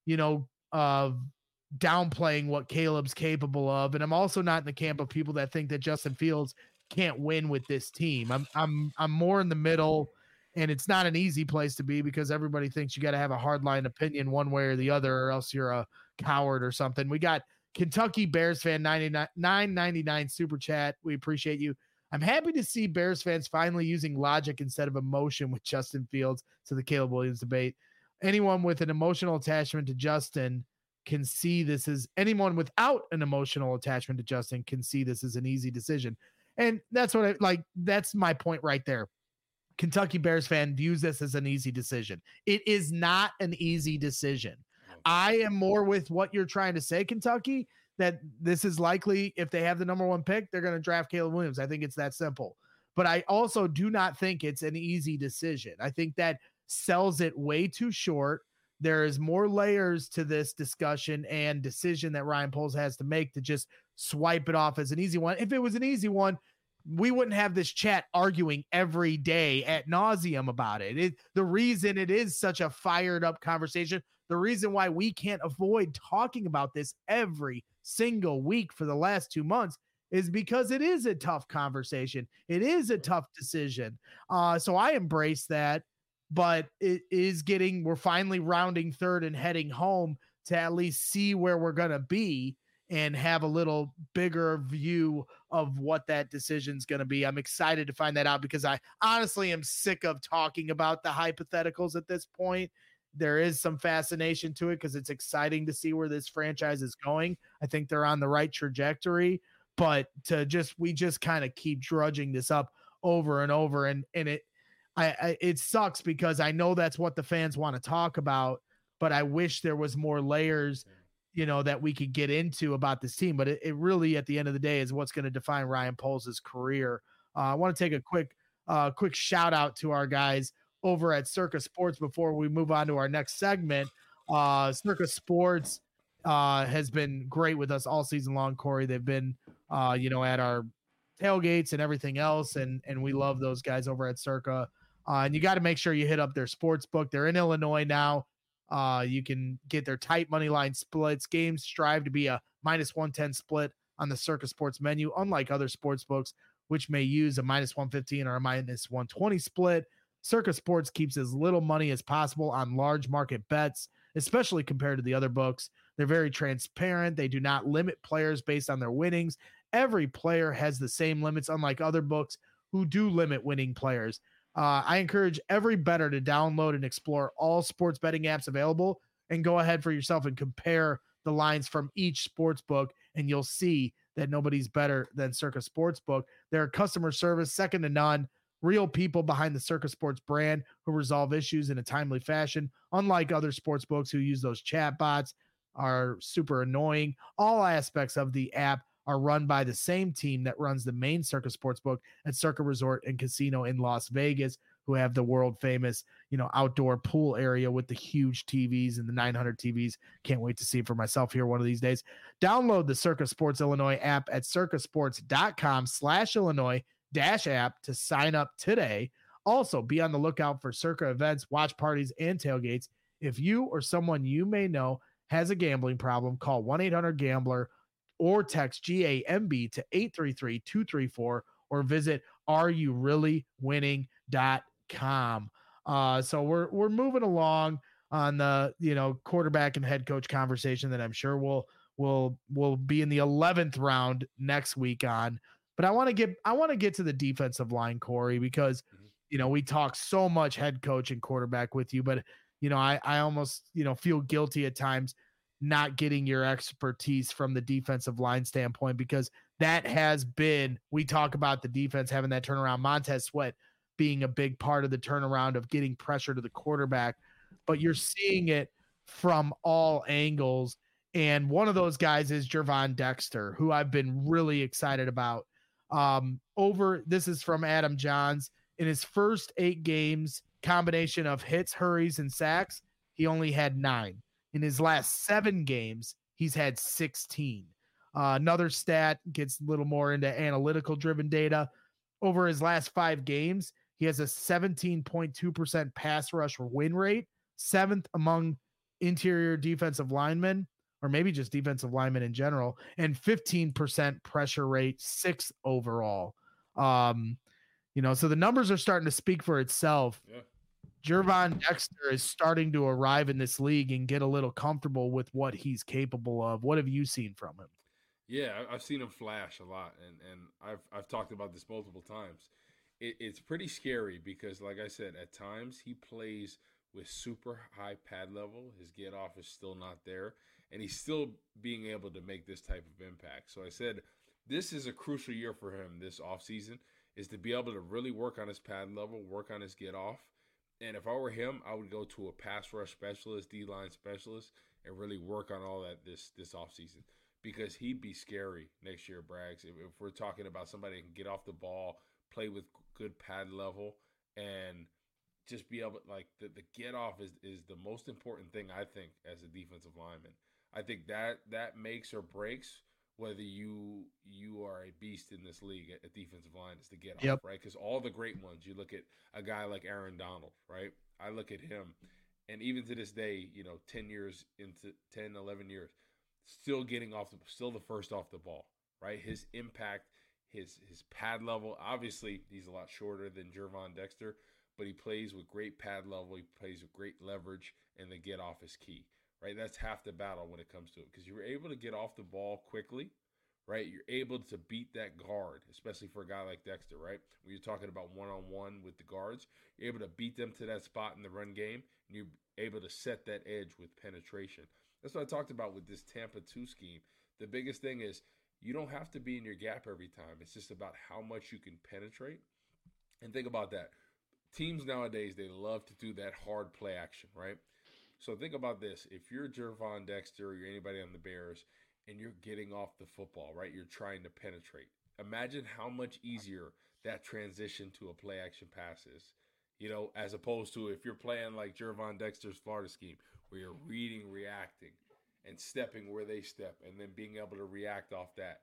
downplaying what Caleb's capable of, and I'm also not in the camp of people that think that Justin Fields can't win with this team. I'm more in the middle, and it's not an easy place to be because everybody thinks you got to have a hardline opinion one way or the other, or else you're a coward or something. We got Kentucky Bears fan 999 super chat. We appreciate you. I'm happy to see Bears fans finally using logic instead of emotion with Justin Fields to the Caleb Williams debate. Anyone with an emotional attachment to Justin can see this as anyone without an emotional attachment to Justin can see this as an easy decision. And that's what that's my point right there. Kentucky Bears fan views this as an easy decision. It is not an easy decision. I am more with what you're trying to say, Kentucky, that this is likely, if they have the number 1 pick, they're going to draft Caleb Williams. I think it's that simple. But I also do not think it's an easy decision. I think that sells it way too short. There is more layers to this discussion and decision that Ryan Poles has to make to just swipe it off as an easy one. If it was an easy one, we wouldn't have this chat arguing every day ad nauseum about it. The reason it is such a fired up conversation, the reason why we can't avoid talking about this every single week for the last 2 months is because it is a tough conversation. It is a tough decision. So I embrace that, but we're finally rounding third and heading home to at least see where we're going to be and have a little bigger view of what that decision's going to be. I'm excited to find that out because I honestly am sick of talking about the hypotheticals at this point. There is some fascination to it because it's exciting to see where this franchise is going. I think they're on the right trajectory, but we just kind of keep drudging this up over and over. And it sucks because I know that's what the fans want to talk about, but I wish there was more layers, that we could get into about this team. But it really, at the end of the day, is what's going to define Ryan Poles' career. I want to take a quick shout out to our guys over at Circa Sports before we move on to our next segment. Circa Sports has been great with us all season long, Corey. They've been, at our tailgates and everything else, and we love those guys over at Circa. And you got to make sure you hit up their sports book. They're in Illinois now. You can get their tight money line splits. Games strive to be a -110 split on the Circa Sports menu, unlike other sports books, which may use a -115 or a -120 split. Circa Sports keeps as little money as possible on large market bets, especially compared to the other books. They're very transparent. They do not limit players based on their winnings. Every player has the same limits, unlike other books who do limit winning players. I encourage every bettor to download and explore all sports betting apps available and go ahead for yourself and compare the lines from each sports book, and you'll see that nobody's better than Circa Sportsbook. Their customer service, second to none. Real people behind the Circa Sports brand who resolve issues in a timely fashion, unlike other sports books who use those chat bots. are super annoying. All aspects of the app are run by the same team that runs the main Circa Sportsbook at Circa Resort and Casino in Las Vegas, who have the world famous, outdoor pool area with the huge TVs and the 900 TVs. Can't wait to see it for myself here one of these days. Download the Circa Sports Illinois app at circasports.com/Illinois-app to sign up today. Also, be on the lookout for Circa events, watch parties, and tailgates. If you or someone you may know has a gambling problem, call 1-800-GAMBLER or text GAMB to 833-234 or visit areyoureallywinning.com. So we're moving along on the quarterback and head coach conversation that I'm sure we'll be in the 11th round next week on. But I want to get to the defensive line, Corey, because we talk so much head coach and quarterback with you, but I almost feel guilty at times not getting your expertise from the defensive line standpoint, because that has been, we talk about the defense having that turnaround, Montez Sweat being a big part of the turnaround of getting pressure to the quarterback, but you're seeing it from all angles. And one of those guys is Gervon Dexter, who I've been really excited about. This is from Adam Johns. In his first 8 games, combination of hits, hurries, and sacks, he only had 9. In his last 7 games, he's had 16. Another stat gets a little more into analytical driven data. Over his last 5 games, he has a 17.2% pass rush win rate, 7th among interior defensive linemen, or maybe just defensive linemen in general, and 15% pressure rate, 6th overall. So the numbers are starting to speak for itself. Yeah. Gervon Dexter is starting to arrive in this league and get a little comfortable with what he's capable of. What have you seen from him? Yeah, I've seen him flash a lot, and I've talked about this multiple times. It's pretty scary because, like I said, at times he plays with super high pad level. His get off is still not there, and he's still being able to make this type of impact. So I said this is a crucial year for him this offseason, is to be able to really work on his pad level, work on his get off. And if I were him, I would go to a pass rush specialist, D-line specialist, and really work on all that this offseason, because he'd be scary next year, Braggs. If we're talking about somebody that can get off the ball, play with good pad level, and just be able, like, the get off is the most important thing, I think, as a defensive lineman. I think that makes or breaks whether you are a beast in this league at defensive line, is the get off, right? Because all the great ones, you look at a guy like Aaron Donald, right? I look at him, and even to this day, 10 years into 10, 11 years, still still the first off the ball, right? His impact, his pad level, obviously he's a lot shorter than Gervon Dexter, but he plays with great pad level, he plays with great leverage, and the get off is key. Right, that's half the battle when it comes to it, because you're able to get off the ball quickly, right? You're able to beat that guard, especially for a guy like Dexter, right? When you're talking about one-on-one with the guards, you're able to beat them to that spot in the run game, and you're able to set that edge with penetration. That's what I talked about with this Tampa 2 scheme. The biggest thing is you don't have to be in your gap every time. It's just about how much you can penetrate. And think about that. Teams nowadays, they love to do that hard play action, right? So think about this. If you're Gervon Dexter or you're anybody on the Bears and you're getting off the football, right, you're trying to penetrate. Imagine how much easier that transition to a play action pass is, as opposed to if you're playing like Gervon Dexter's Florida scheme, where you're reading, reacting, and stepping where they step, and then being able to react off that.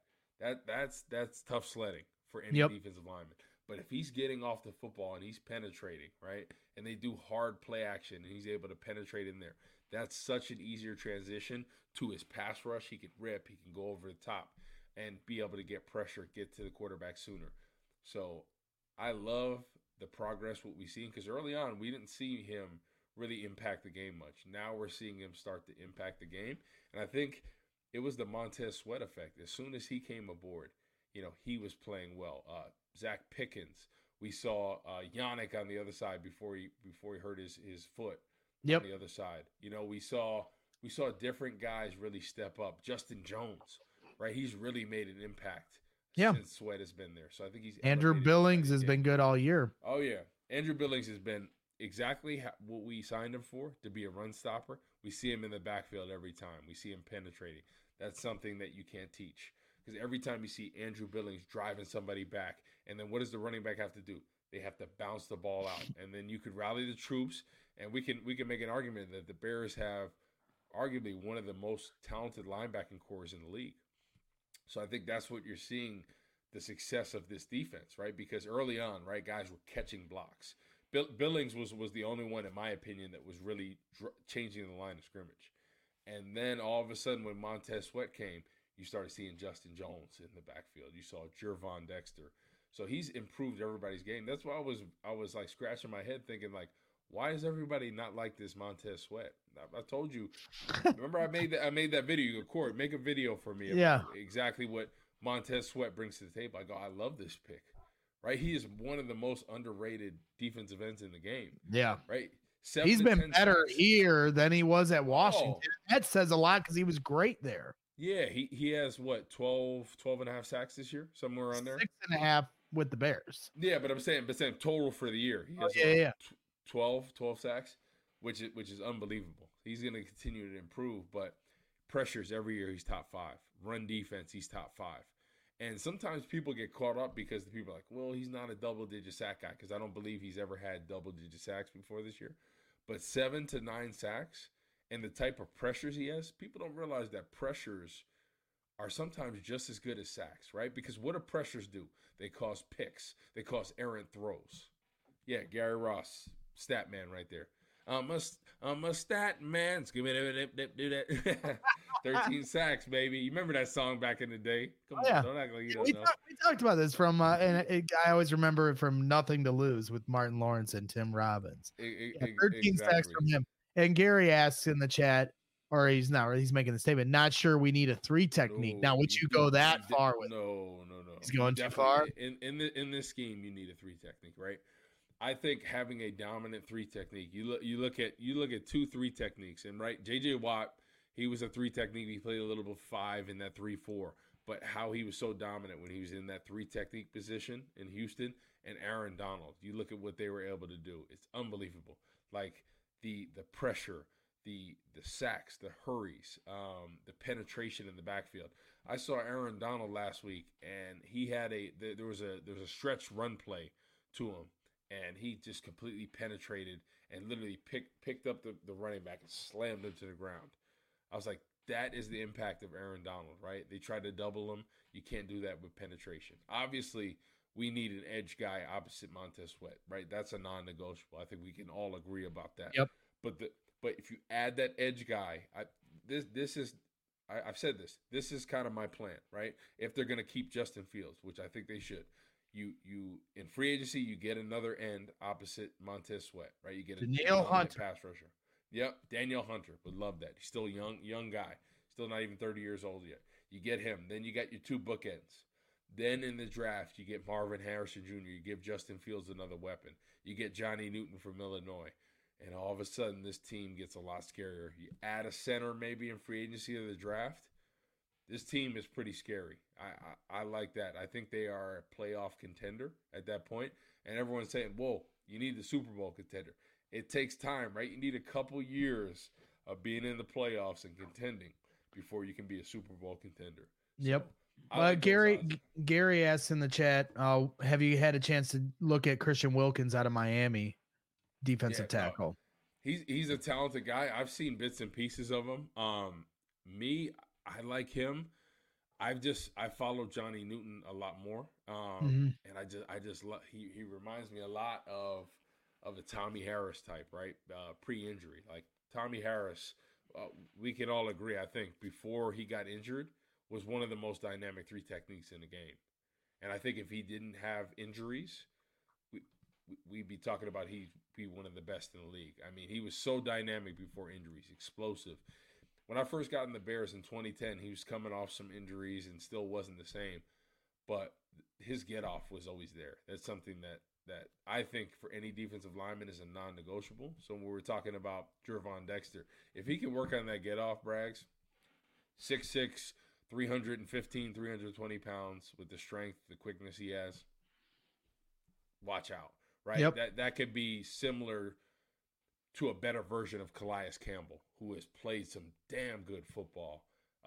That's tough sledding for any defensive lineman. But if he's getting off the football and he's penetrating, right, and they do hard play action and he's able to penetrate in there, that's such an easier transition to his pass rush. He can rip, he can go over the top and be able to get pressure, get to the quarterback sooner. So I love the progress, what we've seen, because early on we didn't see him really impact the game much. Now we're seeing him start to impact the game. And I think it was the Montez Sweat effect. As soon as he came aboard, he was playing well. Zach Pickens. We saw Yannick on the other side before he hurt his foot on the other side. We saw different guys really step up. Justin Jones, right? He's really made an impact since Sweat has been there. So I think he's Andrew Billings has been good all year. Oh yeah, Andrew Billings has been exactly what we signed him for, to be a run stopper. We see him in the backfield every time. We see him penetrating. That's something that you can't teach. Because every time you see Andrew Billings driving somebody back, and then what does the running back have to do? They have to bounce the ball out. And then you could rally the troops, and we can make an argument that the Bears have arguably one of the most talented linebacking corps in the league. So I think that's what you're seeing, the success of this defense, right? Because early on, right, guys were catching blocks. Billings was the only one, in my opinion, that was really changing the line of scrimmage. And then all of a sudden, when Montez Sweat came, you started seeing Justin Jones in the backfield. You saw Gervon Dexter. So he's improved everybody's game. That's why I was like scratching my head thinking, like, why is everybody not like this Montez Sweat? I told you. Remember, I made that video. You go, Corey, make a video for me. Yeah. Exactly what Montez Sweat brings to the table. I go, I love this pick. Right? He is one of the most underrated defensive ends in the game. Yeah. Right? He's been better here than he was at Washington. Oh. That says a lot because he was great there. Yeah, he has, what, 12 and a half sacks this year? Somewhere around there? 6.5 with the Bears. Yeah, but I'm saying total for the year. He has 12 sacks, which is unbelievable. He's going to continue to improve, but pressures every year, he's top 5. Run defense, he's top 5. And sometimes people get caught up because the people are like, well, he's not a double-digit sack guy, because I don't believe he's ever had double-digit sacks before this year. But 7 to 9 sacks and the type of pressures he has, people don't realize that pressures are sometimes just as good as sacks, right? Because what do pressures do? They cause picks. They cause errant throws. Yeah, Gary Ross, stat man right there. I'm a stat man. Do that. 13 sacks, baby. You remember that song back in the day? Come on, don't act like you don't know. We talked about this from, and I always remember it from Nothing to Lose with Martin Lawrence and Tim Robbins. 13 sacks from him. And Gary asks in the chat, or he's making the statement, not sure we need a 3 technique. Now, would you go that far with? No. He's going too far? In this scheme, you need a 3 technique, right? I think having a dominant 3 technique, you look at 2-3 techniques, and right, J.J. Watt, he was a 3 technique. He played a little bit 5 in that 3-4, but how he was so dominant when he was in that 3 technique position in Houston, and Aaron Donald, you look at what they were able to do. It's unbelievable. Like the pressure, the sacks, the hurries, the penetration in the backfield. I saw Aaron Donald last week, and he had there was a stretch run play to him. And he just completely penetrated and literally picked up the running back and slammed him to the ground. I was like, that is the impact of Aaron Donald, right? They tried to double him. You can't do that with penetration. Obviously, we need an edge guy opposite Montez Sweat, right? That's a non-negotiable. I think we can all agree about that. Yep. But if you add that edge guy, I've said this. This is kind of my plan, right? If they're going to keep Justin Fields, which I think they should. You in free agency, you get another end opposite Montez Sweat, right? You get a Danielle Hunter pass rusher. Yep, Danielle Hunter would love that. He's still a young guy, still not even 30 years old yet. You get him. Then you got your 2 bookends. Then in the draft, you get Marvin Harrison Jr. You give Justin Fields another weapon. You get Johnny Newton from Illinois. And all of a sudden, this team gets a lot scarier. You add a center maybe in free agency or the draft. This team is pretty scary. I like that. I think they are a playoff contender at that point. And everyone's saying, whoa, you need the Super Bowl contender. It takes time, right? You need a couple years of being in the playoffs and contending before you can be a Super Bowl contender. Yep. Like Gary asks in the chat, have you had a chance to look at Christian Wilkins out of Miami, defensive tackle? He's a talented guy. I've seen bits and pieces of him. I like him. I follow Johnny Newton a lot more, and I just love. He reminds me a lot of a Tommy Harris type, right? Pre-injury, like Tommy Harris. We can all agree, I think, before he got injured, was one of the most dynamic 3 techniques in the game. And I think if he didn't have injuries, we'd be talking about he'd be one of the best in the league. I mean, he was so dynamic before injuries, explosive. When I first got in the Bears in 2010, he was coming off some injuries and still wasn't the same. But his get-off was always there. That's something that I think for any defensive lineman is a non-negotiable. So when we're talking about Gervon Dexter, if he can work on that get-off, Braggs, 6'6", 315, 320 pounds with the strength, the quickness he has, watch out, right? Yep. That could be similar to a better version of Calais Campbell, who has played some damn good football.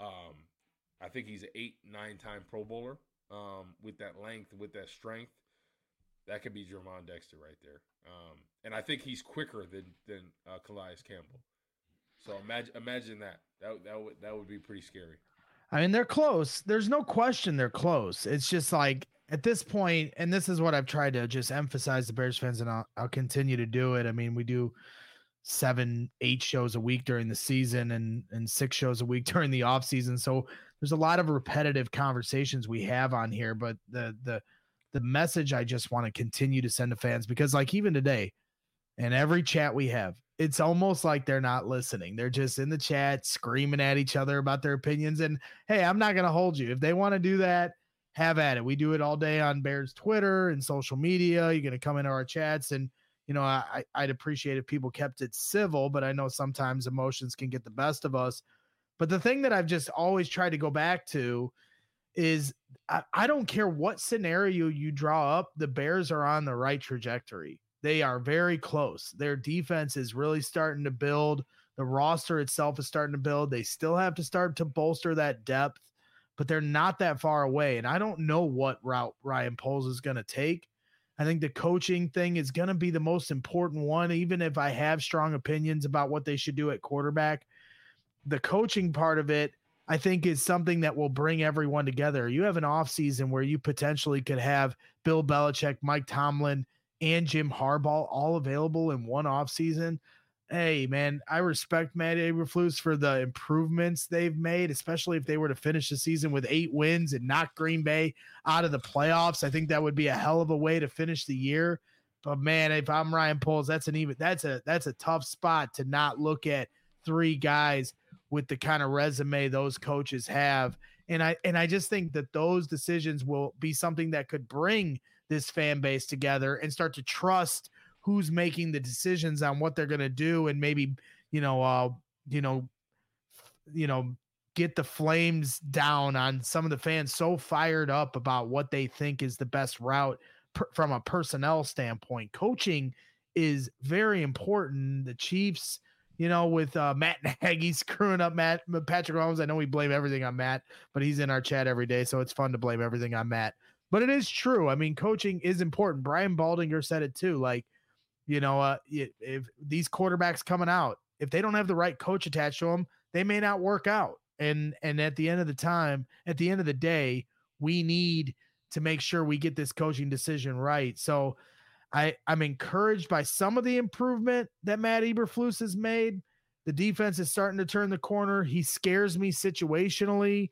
I think he's an 8-9 time Pro Bowler. With that length, with that strength, that could be Jermon Dexter right there. And I think he's quicker than Calais Campbell. So imagine that. That would be pretty scary. I mean, they're close. There's no question they're close. It's just like at this point, and this is what I've tried to just emphasize to Bears fans, and I'll continue to do it. I mean, we do 7-8 shows a week during the season and 6 shows a week during the off season. So there's a lot of repetitive conversations we have on here, but the message I just want to continue to send to fans, because like even today and every chat we have, it's almost like they're not listening. They're just in the chat screaming at each other about their opinions. And hey, I'm not going to hold you. If they want to do that, have at it. We do it all day on Bears Twitter and social media. You're going to come into our chats, and you know, I'd appreciate if people kept it civil, but I know sometimes emotions can get the best of us. But the thing that I've just always tried to go back to is I don't care what scenario you draw up, the Bears are on the right trajectory. They are very close. Their defense is really starting to build. The roster itself is starting to build. They still have to start to bolster that depth, but they're not that far away. And I don't know what route Ryan Poles is going to take. I think the coaching thing is going to be the most important one, even if I have strong opinions about what they should do at quarterback. The coaching part of it, I think, is something that will bring everyone together. You have an offseason where you potentially could have Bill Belichick, Mike Tomlin, and Jim Harbaugh all available in one offseason. Hey, man, I respect Matt Eberflus for the improvements they've made, especially if they were to finish the season with 8 wins and knock Green Bay out of the playoffs. I think that would be a hell of a way to finish the year. But man, if I'm Ryan Poles, that's a tough spot to not look at 3 guys with the kind of resume those coaches have. And I just think that those decisions will be something that could bring this fan base together and start to trust who's making the decisions on what they're going to do, and maybe, get the flames down on some of the fans so fired up about what they think is the best route from a personnel standpoint. Coaching is very important. The Chiefs, with Matt Nagy screwing up Patrick Mahomes. I know we blame everything on Matt, but he's in our chat every day, so it's fun to blame everything on Matt. But it is true. I mean, coaching is important. Brian Baldinger said it too. Like, if these quarterbacks coming out, if they don't have the right coach attached to them, they may not work out. And at the end of the day, we need to make sure we get this coaching decision right. So I'm encouraged by some of the improvement that Matt Eberflus has made. The defense is starting to turn the corner. He scares me situationally,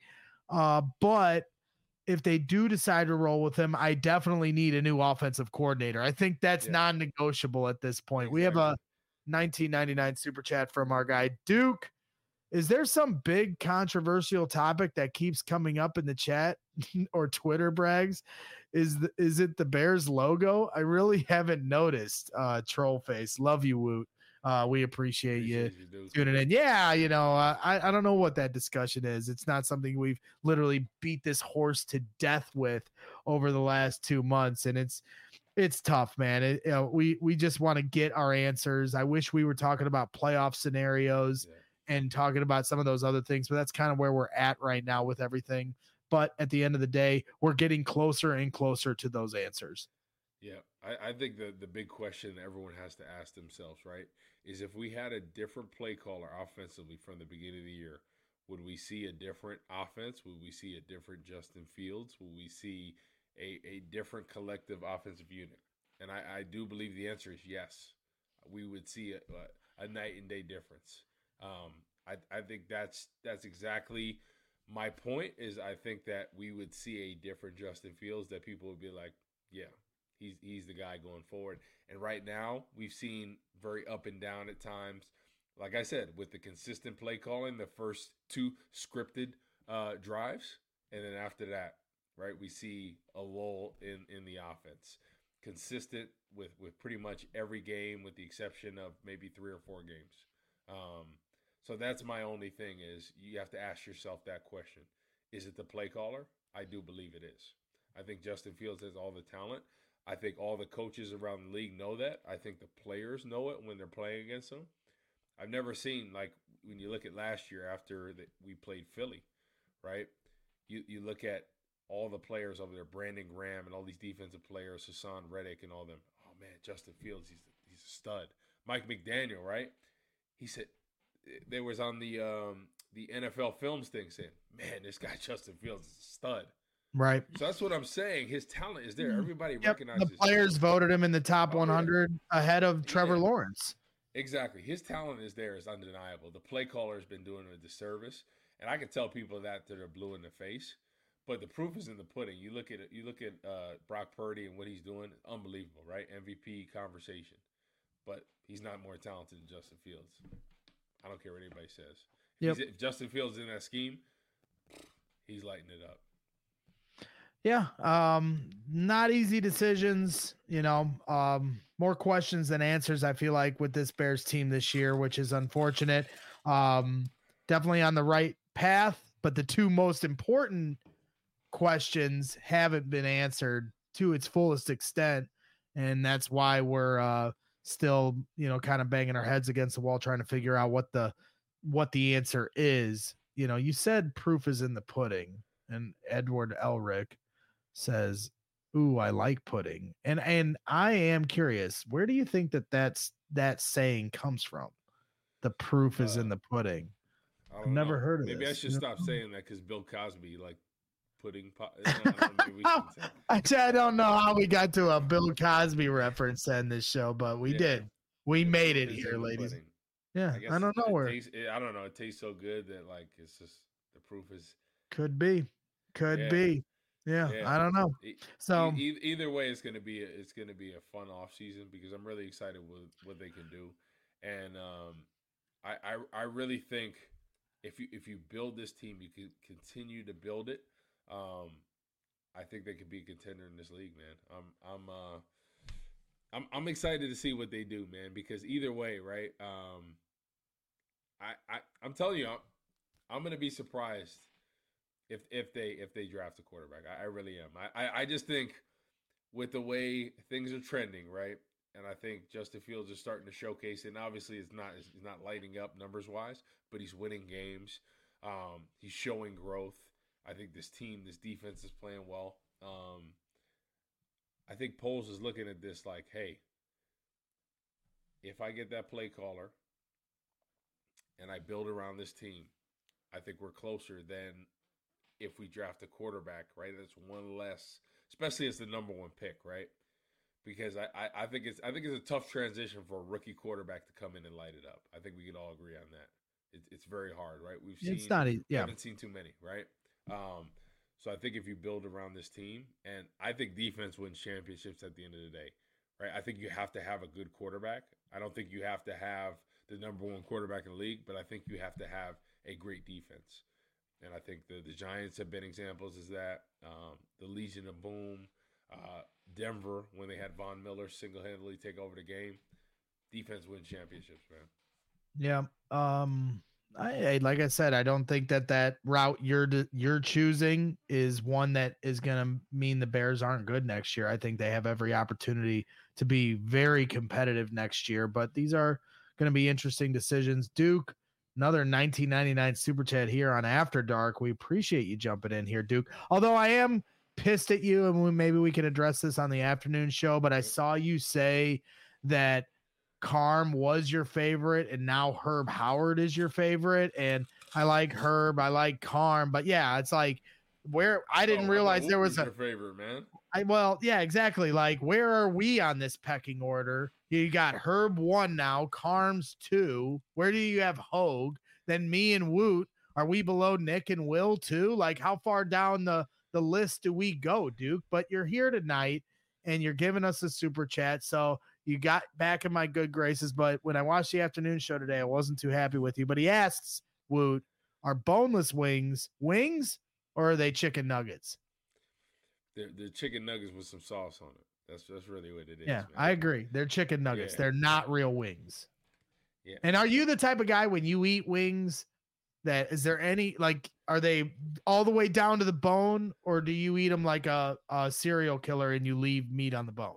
but if they do decide to roll with him, I definitely need a new offensive coordinator. I think that's non-negotiable at this point. Exactly. We have a 1999 super chat from our guy Duke. Is there some big controversial topic that keeps coming up in the chat or Twitter brags? Is it the Bears logo? I really haven't noticed. Troll face. Love you, Woot. We appreciate you tuning in. Yeah, I don't know what that discussion is. It's not something we've literally beat this horse to death with over the last 2 months, and it's tough, man. We just want to get our answers. I wish we were talking about playoff scenarios and talking about some of those other things, but that's kind of where we're at right now with everything. But at the end of the day, we're getting closer and closer to those answers. Yeah, I think the big question everyone has to ask themselves, right, is if we had a different play caller offensively from the beginning of the year, would we see a different offense? Would we see a different Justin Fields? Would we see a different collective offensive unit? And I do believe the answer is yes. We would see a night and day difference. I think that's exactly my point. Is I think that we would see a different Justin Fields, that people would be like, yeah, he's the guy going forward. And right now, we've seen very up and down at times. Like I said, with the consistent play calling, the first 2 scripted drives, and then after that, right, we see a lull in the offense. Consistent with pretty much every game, with the exception of maybe 3 or 4 games. So that's my only thing, is you have to ask yourself that question. Is it the play caller? I do believe it is. I think Justin Fields has all the talent. I think all the coaches around the league know that. I think the players know it when they're playing against them. I've never seen, like, when you look at last year after we played Philly, right? You look at all the players over there, Brandon Graham and all these defensive players, Hassan Reddick and all them. Oh man, Justin Fields, he's a stud. Mike McDaniel, right? He said they was on the NFL Films thing saying, man, this guy Justin Fields is a stud. Right. So that's what I'm saying. His talent is there. Everybody Yep. recognizes. The players voted him in the top 100 ahead of Trevor Lawrence. Exactly. His talent is there. It's undeniable. The play caller has been doing him a disservice. And I can tell people that they're blue in the face. But the proof is in the pudding. You look at it. You look at Brock Purdy and what he's doing. Unbelievable, right? MVP conversation. But he's not more talented than Justin Fields. I don't care what anybody says. If Justin Fields is in that scheme, he's lighting it up. Yeah. Not easy decisions, more questions than answers, I feel like, with this Bears team this year, which is unfortunate. Definitely on the right path, but the two most important questions haven't been answered to its fullest extent. And that's why we're still, kind of banging our heads against the wall, trying to figure out what the answer is. You said proof is in the pudding, and Edward Elric says, ooh, I like pudding. And I am curious, where do you think that saying comes from? The proof is in the pudding. I've never heard of Maybe this. I should stop saying that because Bill Cosby, like, pudding. I don't know how we got to a Bill Cosby reference in this show, but we did. We made it here, ladies. Pudding. Yeah, I don't know where. I don't know. It tastes so good that, like, it's just the proof is. Could be. Yeah, I don't know. So either way, it's gonna be a fun off season because I'm really excited with what they can do, and I really think if you build this team, you can continue to build it. I think they could be a contender in this league, man. I'm excited to see what they do, man, because either way, right? I'm telling you, I'm gonna be surprised if they draft a quarterback. I really am. I just think with the way things are trending, right? And I think Justin Fields is starting to showcase it. And obviously it's not lighting up numbers wise, but he's winning games. He's showing growth. I think this defense is playing well. I think Poles is looking at this like, hey, if I get that play caller and I build around this team, I think we're closer than if we draft a quarterback, right? That's one less, especially as the number one pick, right? Because I think it's a tough transition for a rookie quarterback to come in and light it up. I think we can all agree on that. It's very hard, right? Haven't seen too many, right? So I think if you build around this team, and I think defense wins championships at the end of the day, right? I think you have to have a good quarterback. I don't think you have to have the number one quarterback in the league, but I think you have to have a great defense. And I think the Giants have been examples of that. The Legion of Boom, Denver, when they had Von Miller single-handedly take over the game. Defense wins championships, man. Yeah. Like I said, I don't think that route you're choosing is one that is going to mean the Bears aren't good next year. I think they have every opportunity to be very competitive next year, but these are going to be interesting decisions. Duke, another 1999 super chat here on After Dark. We appreciate you jumping in here, Duke. Although I am pissed at you, and maybe we can address this on the afternoon show, but I saw you say that Carm was your favorite and now Herb Howard is your favorite. And I like Herb, I like Carm, but yeah, it's like where I didn't realize there was your favorite, man. Well, yeah, exactly. Like, where are we on this pecking order? You got Herb 1 now, Carm's 2. Where do you have Hogue? Then me and Woot. Are we below Nick and Will too? Like, how far down the list do we go, Duke? But you're here tonight and you're giving us a super chat. So you got back in my good graces. But when I watched the afternoon show today, I wasn't too happy with you. But he asks, Woot, are boneless wings or are they chicken nuggets? They're chicken nuggets with some sauce on it. That's really what it is. Yeah, man. I agree. They're chicken nuggets. Yeah. They're not real wings. Yeah. And are you the type of guy when you eat wings, that is there any like are they all the way down to the bone, or do you eat them like a serial killer and you leave meat on the bone?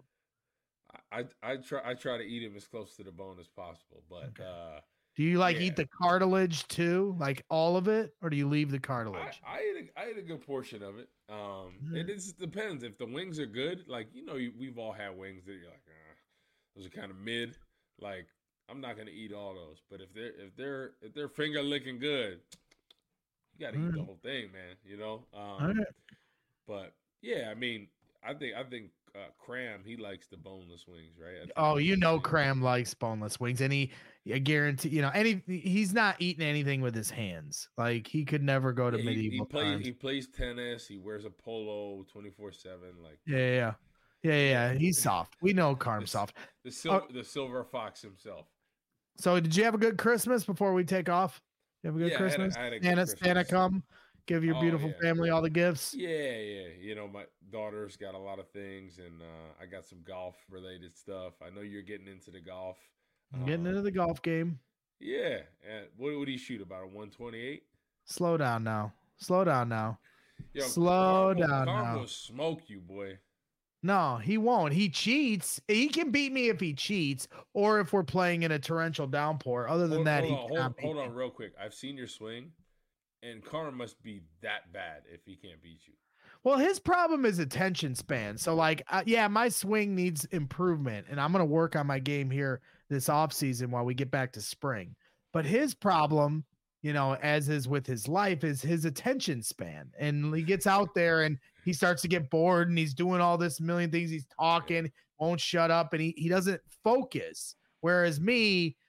I try to eat them as close to the bone as possible, but Okay. Do you like yeah, eat the cartilage too, like all of it, or do you leave the cartilage? I ate a good portion of it. Mhm. It just depends if the wings are good. Like we've all had wings that you're like, those are kind of mid. Like I'm not gonna eat all those, but if they're finger licking good, you got to All eat the right. whole thing, man. All right. But yeah, I mean, I think Cram he likes the boneless wings, right? I think Oh, that's you his know, thing. Cram likes boneless wings, and I guarantee, he's not eating anything with his hands. Like he could never go to Yeah, he medieval plays times. he plays tennis. He wears a polo 24/7. Like Yeah, yeah, yeah, yeah, yeah, yeah. He's soft. We know the Carm's s- soft. the Oh, silver fox himself. so did you have a good Christmas before we take off? You have a good Yeah, Christmas? I had a good Santa Christmas. come, give your Oh beautiful yeah, family all the gifts. yeah. My daughter's got a lot of things, and I got some golf related stuff. I know you're getting into the golf. I'm getting into the golf game. Yeah. And what would he shoot about a 128? Slow down now. Slow down now. Yo, Slow down Carm now. will smoke you, boy. No, he won't. He cheats. He can beat me if he cheats or if we're playing in a torrential downpour. Other than that, he cannot beat Hold me. on, real quick. I've seen your swing, and Carm must be that bad if he can't beat you. Well, his problem is attention span. So, like, yeah, my swing needs improvement, and I'm going to work on my game here this off season while we get back to spring. But his problem, as is with his life, is his attention span. And he gets out there and he starts to get bored and he's doing all this million things. He's Yeah. talking, won't shut up, and he doesn't focus. Whereas me,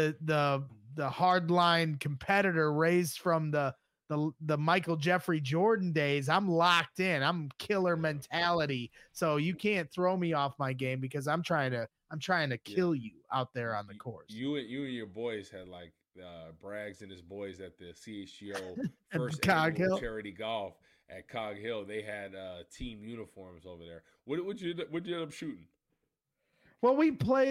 the hardline competitor raised from the Michael Jeffrey Jordan days, I'm locked in. I'm killer Yeah. mentality. So you can't throw me off my game because I'm trying to Yeah. kill you out there on the course. You and your boys had like Braggs and his boys at the CHGO At first Cog annual Hill. charity golf at Cog Hill. They had team uniforms over there. What you end up shooting? Well, we played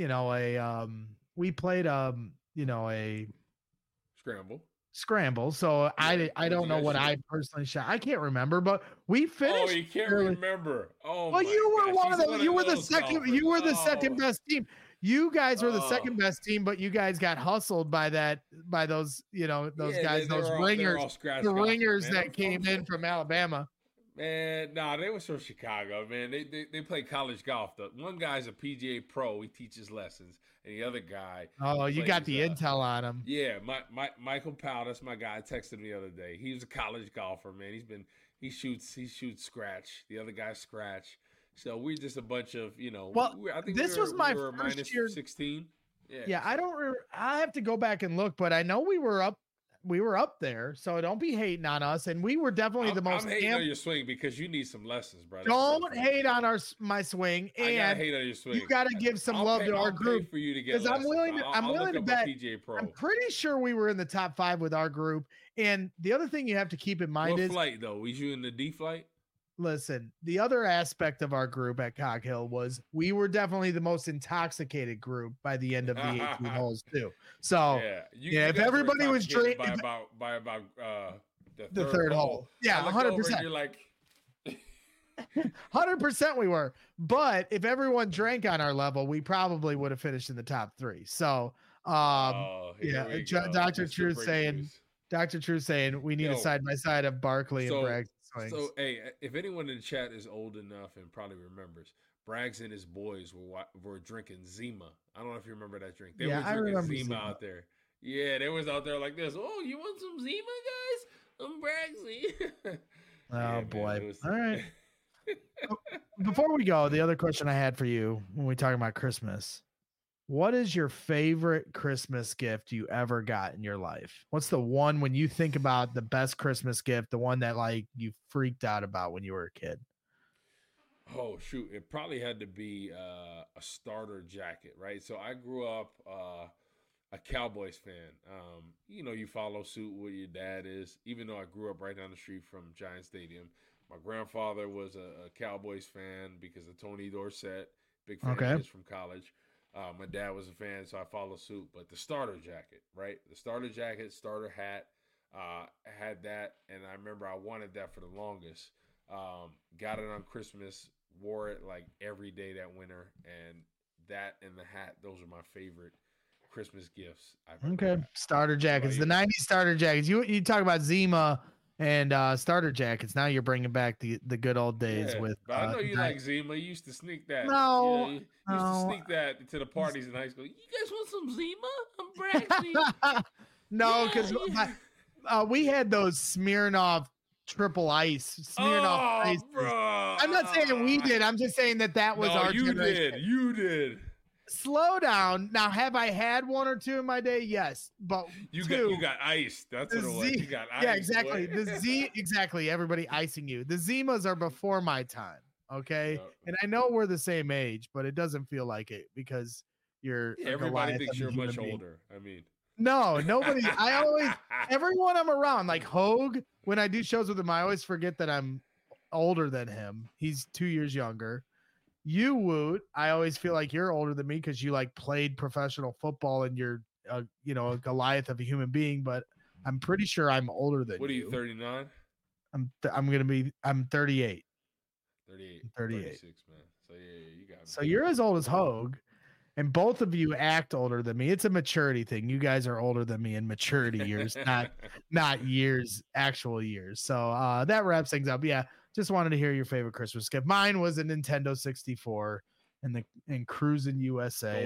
a Scramble. scramble. So Yeah. I What'd don't you know guys what shoot? I personally shot. I can't remember, but we Oh, finished you can't fairly. remember. Oh Well, my you were gosh, one he's of the one you of were the those second golfers. you were the second Oh, best team. You guys were the oh. second best team, but you guys got hustled by those those Yeah, guys, those they were ringers, all scratch the golfers, ringers man. that came in from Alabama. Man, nah, they was from Chicago, man. They play college golf. The one guy's a PGA pro. He teaches lessons, and the other guy Oh, you got plays. the intel on him. Yeah, Michael Powell. That's my guy. I texted him the other day. He was a college golfer, man. He shoots scratch. The other guy scratch. So we're just a bunch of Well, I think this was my we were first minus year. 16. Yeah. Yeah, I So. don't. I have to go back and look, but I know we were up. We were up there, so don't be hating on us. And we were definitely the most. I'm hating on your swing because you need some lessons, brother. Don't hate on my swing, I gotta and hate on your swing. you got to give some love to our I'll group pay for you to get because I'm lessons. willing to. I'm I'll willing look to up bet. a PGA Pro. I'm pretty sure we were in the top 5 with our group. And the other thing you have to keep in mind What is, flight though? Was you in the D flight? listen, the other aspect of our group at Cog Hill was we were definitely the most intoxicated group by the end of the 18 holes too. So You if guys were everybody was intoxicated drinking by about the third hole, yeah, I looked over 100%. and you're like, 100% we were. But if everyone drank on our level, we probably would have finished in the top 3. So, here we yeah, go. Dr. Mr. True saying, Breakthroughs. Dr. True saying we need a Yo, side by side of Barkley and Braggs swings. So, hey, if anyone in the chat is old enough and probably remembers, Braggs and his boys were drinking Zima. I don't know if you remember that drink. They were drinking Zima out there. Yeah, they was out there like this. Oh, you want some Zima, guys? I'm Braggsy. Oh, boy. All right. Before we go, the other question I had for you when we talk about Christmas, what is your favorite Christmas gift you ever got in your life? What's the one when you think about the best Christmas gift, the one that like you freaked out about when you were a kid? Oh shoot! It probably had to be a starter jacket, right? So I grew up a Cowboys fan. You follow suit what your dad is. Even though I grew up right down the street from Giant Stadium, my grandfather was a Cowboys fan because of Tony Dorsett, big fan of his from college. My dad was a fan, so I followed suit. But the starter jacket, right? The starter jacket, starter hat. Had that, and I remember I wanted that for the longest. Got it on Christmas, wore it like every day that winter, and that and the hat, those are my favorite Christmas gifts I've ever Okay. got. Starter jackets. The 90s starter jackets. You talk about Zima and starter jackets. Now you're bringing back the good old days with. But I know you like Zima. You used to sneak that. No, you used to sneak that to the parties in high school. You guys want some Zima? I'm Braxy. No, because we had those Smirnoff triple ice. Smirnoff ice. Bro. I'm not saying we did. I'm just saying that was our generation. You did. Slow down. Now, have I had one or two in my day? Yes, but you got iced. That's what it was. You got iced. Yeah, exactly. Exactly. Everybody icing you. The Zimas are before my time. Okay, and I know we're the same age, but it doesn't feel like it because you're. Everybody thinks you're much older. I mean. No, nobody. Everyone I'm around, like Hogue, when I do shows with him, I always forget that I'm older than him. He's 2 years younger. You, Woot, I always feel like you're older than me because you like played professional football and you're, a Goliath of a human being. But I'm pretty sure I'm older than you. What are you, 39? I'm 38. 38. 36, man. So yeah, you got me. So you're as old as Hogue. And both of you act older than me. It's a maturity thing. You guys are older than me in maturity years, not years, actual years. So that wraps things up. Yeah, just wanted to hear your favorite Christmas gift. Mine was a Nintendo 64 and Cruising USA.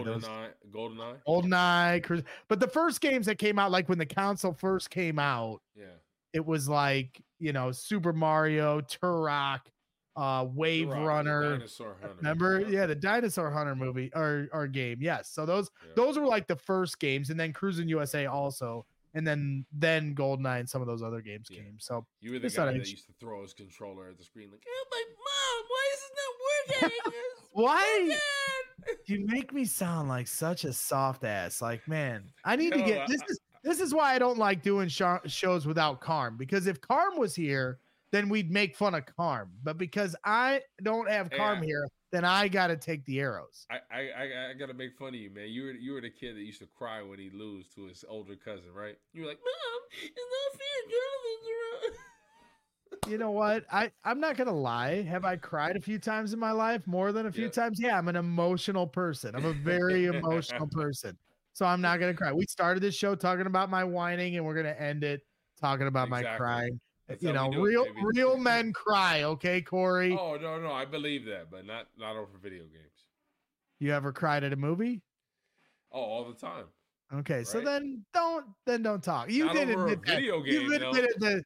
GoldenEye. But the first games that came out, like when the console first came out, it was like, Super Mario, Turok, Wave Runner. Remember? Yeah, the Dinosaur Hunter movie or game. Yes. So those were like the first games, and then Cruising USA also, and then GoldenEye and some of those other games came. So you were the guy that used to throw his controller at the screen like, "Oh my mom, why is this not working?" Why? You make me sound like such a soft ass. Like, man, I need to get this is why I don't like doing shows without Carm, because if Carm was here, then we'd make fun of Carm. But because I don't have Carm here, then I got to take the arrows. I got to make fun of you, man. You were the kid that used to cry when he'd lose to his older cousin, right? You were like, "Mom, it's not fair. Jonathan's around." You know what? I'm not going to lie. Have I cried a few times in my life? More than a few times? Yeah, I'm an emotional person. I'm a very emotional person. So I'm not going to cry. We started this show talking about my whining, and we're going to end it talking about my crying. That's real men cry, okay, Corey? Oh no, I believe that, but not over video games. You ever cried at a movie? Oh, all the time. Okay, right? So then don't talk. You did admit that. Video game. You admitted that.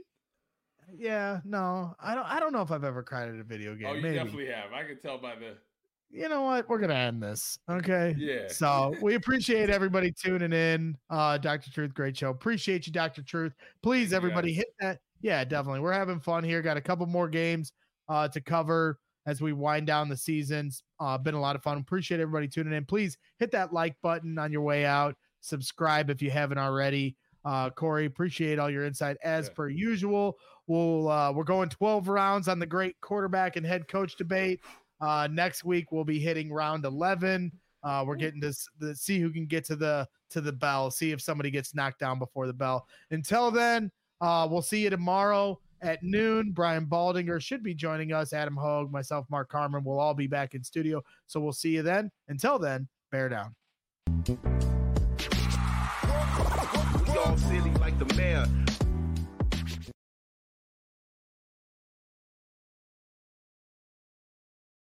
Yeah, no, I don't know if I've ever cried at a video game. Oh, you definitely have. I can tell by the. You know what? We're gonna end this. Okay. Yeah. So we appreciate everybody tuning in. Dr. Truth, great show. Appreciate you, Dr. Truth. Please, everybody, hit that. Yeah, definitely. We're having fun here. Got a couple more games to cover as we wind down the seasons. Been a lot of fun. Appreciate everybody tuning in. Please hit that like button on your way out. Subscribe if you haven't already. Corey, appreciate all your insight as per usual. We're going 12 rounds on the great quarterback and head coach debate. Next week we'll be hitting round 11. We're getting to see who can get to the bell. See if somebody gets knocked down before the bell. Until then. We'll see you tomorrow at noon. Brian Baldinger should be joining us. Adam Hogue, myself, Mark Carmen. We'll all be back in studio. So we'll see you then. Until then, bear down. We all silly like the mayor.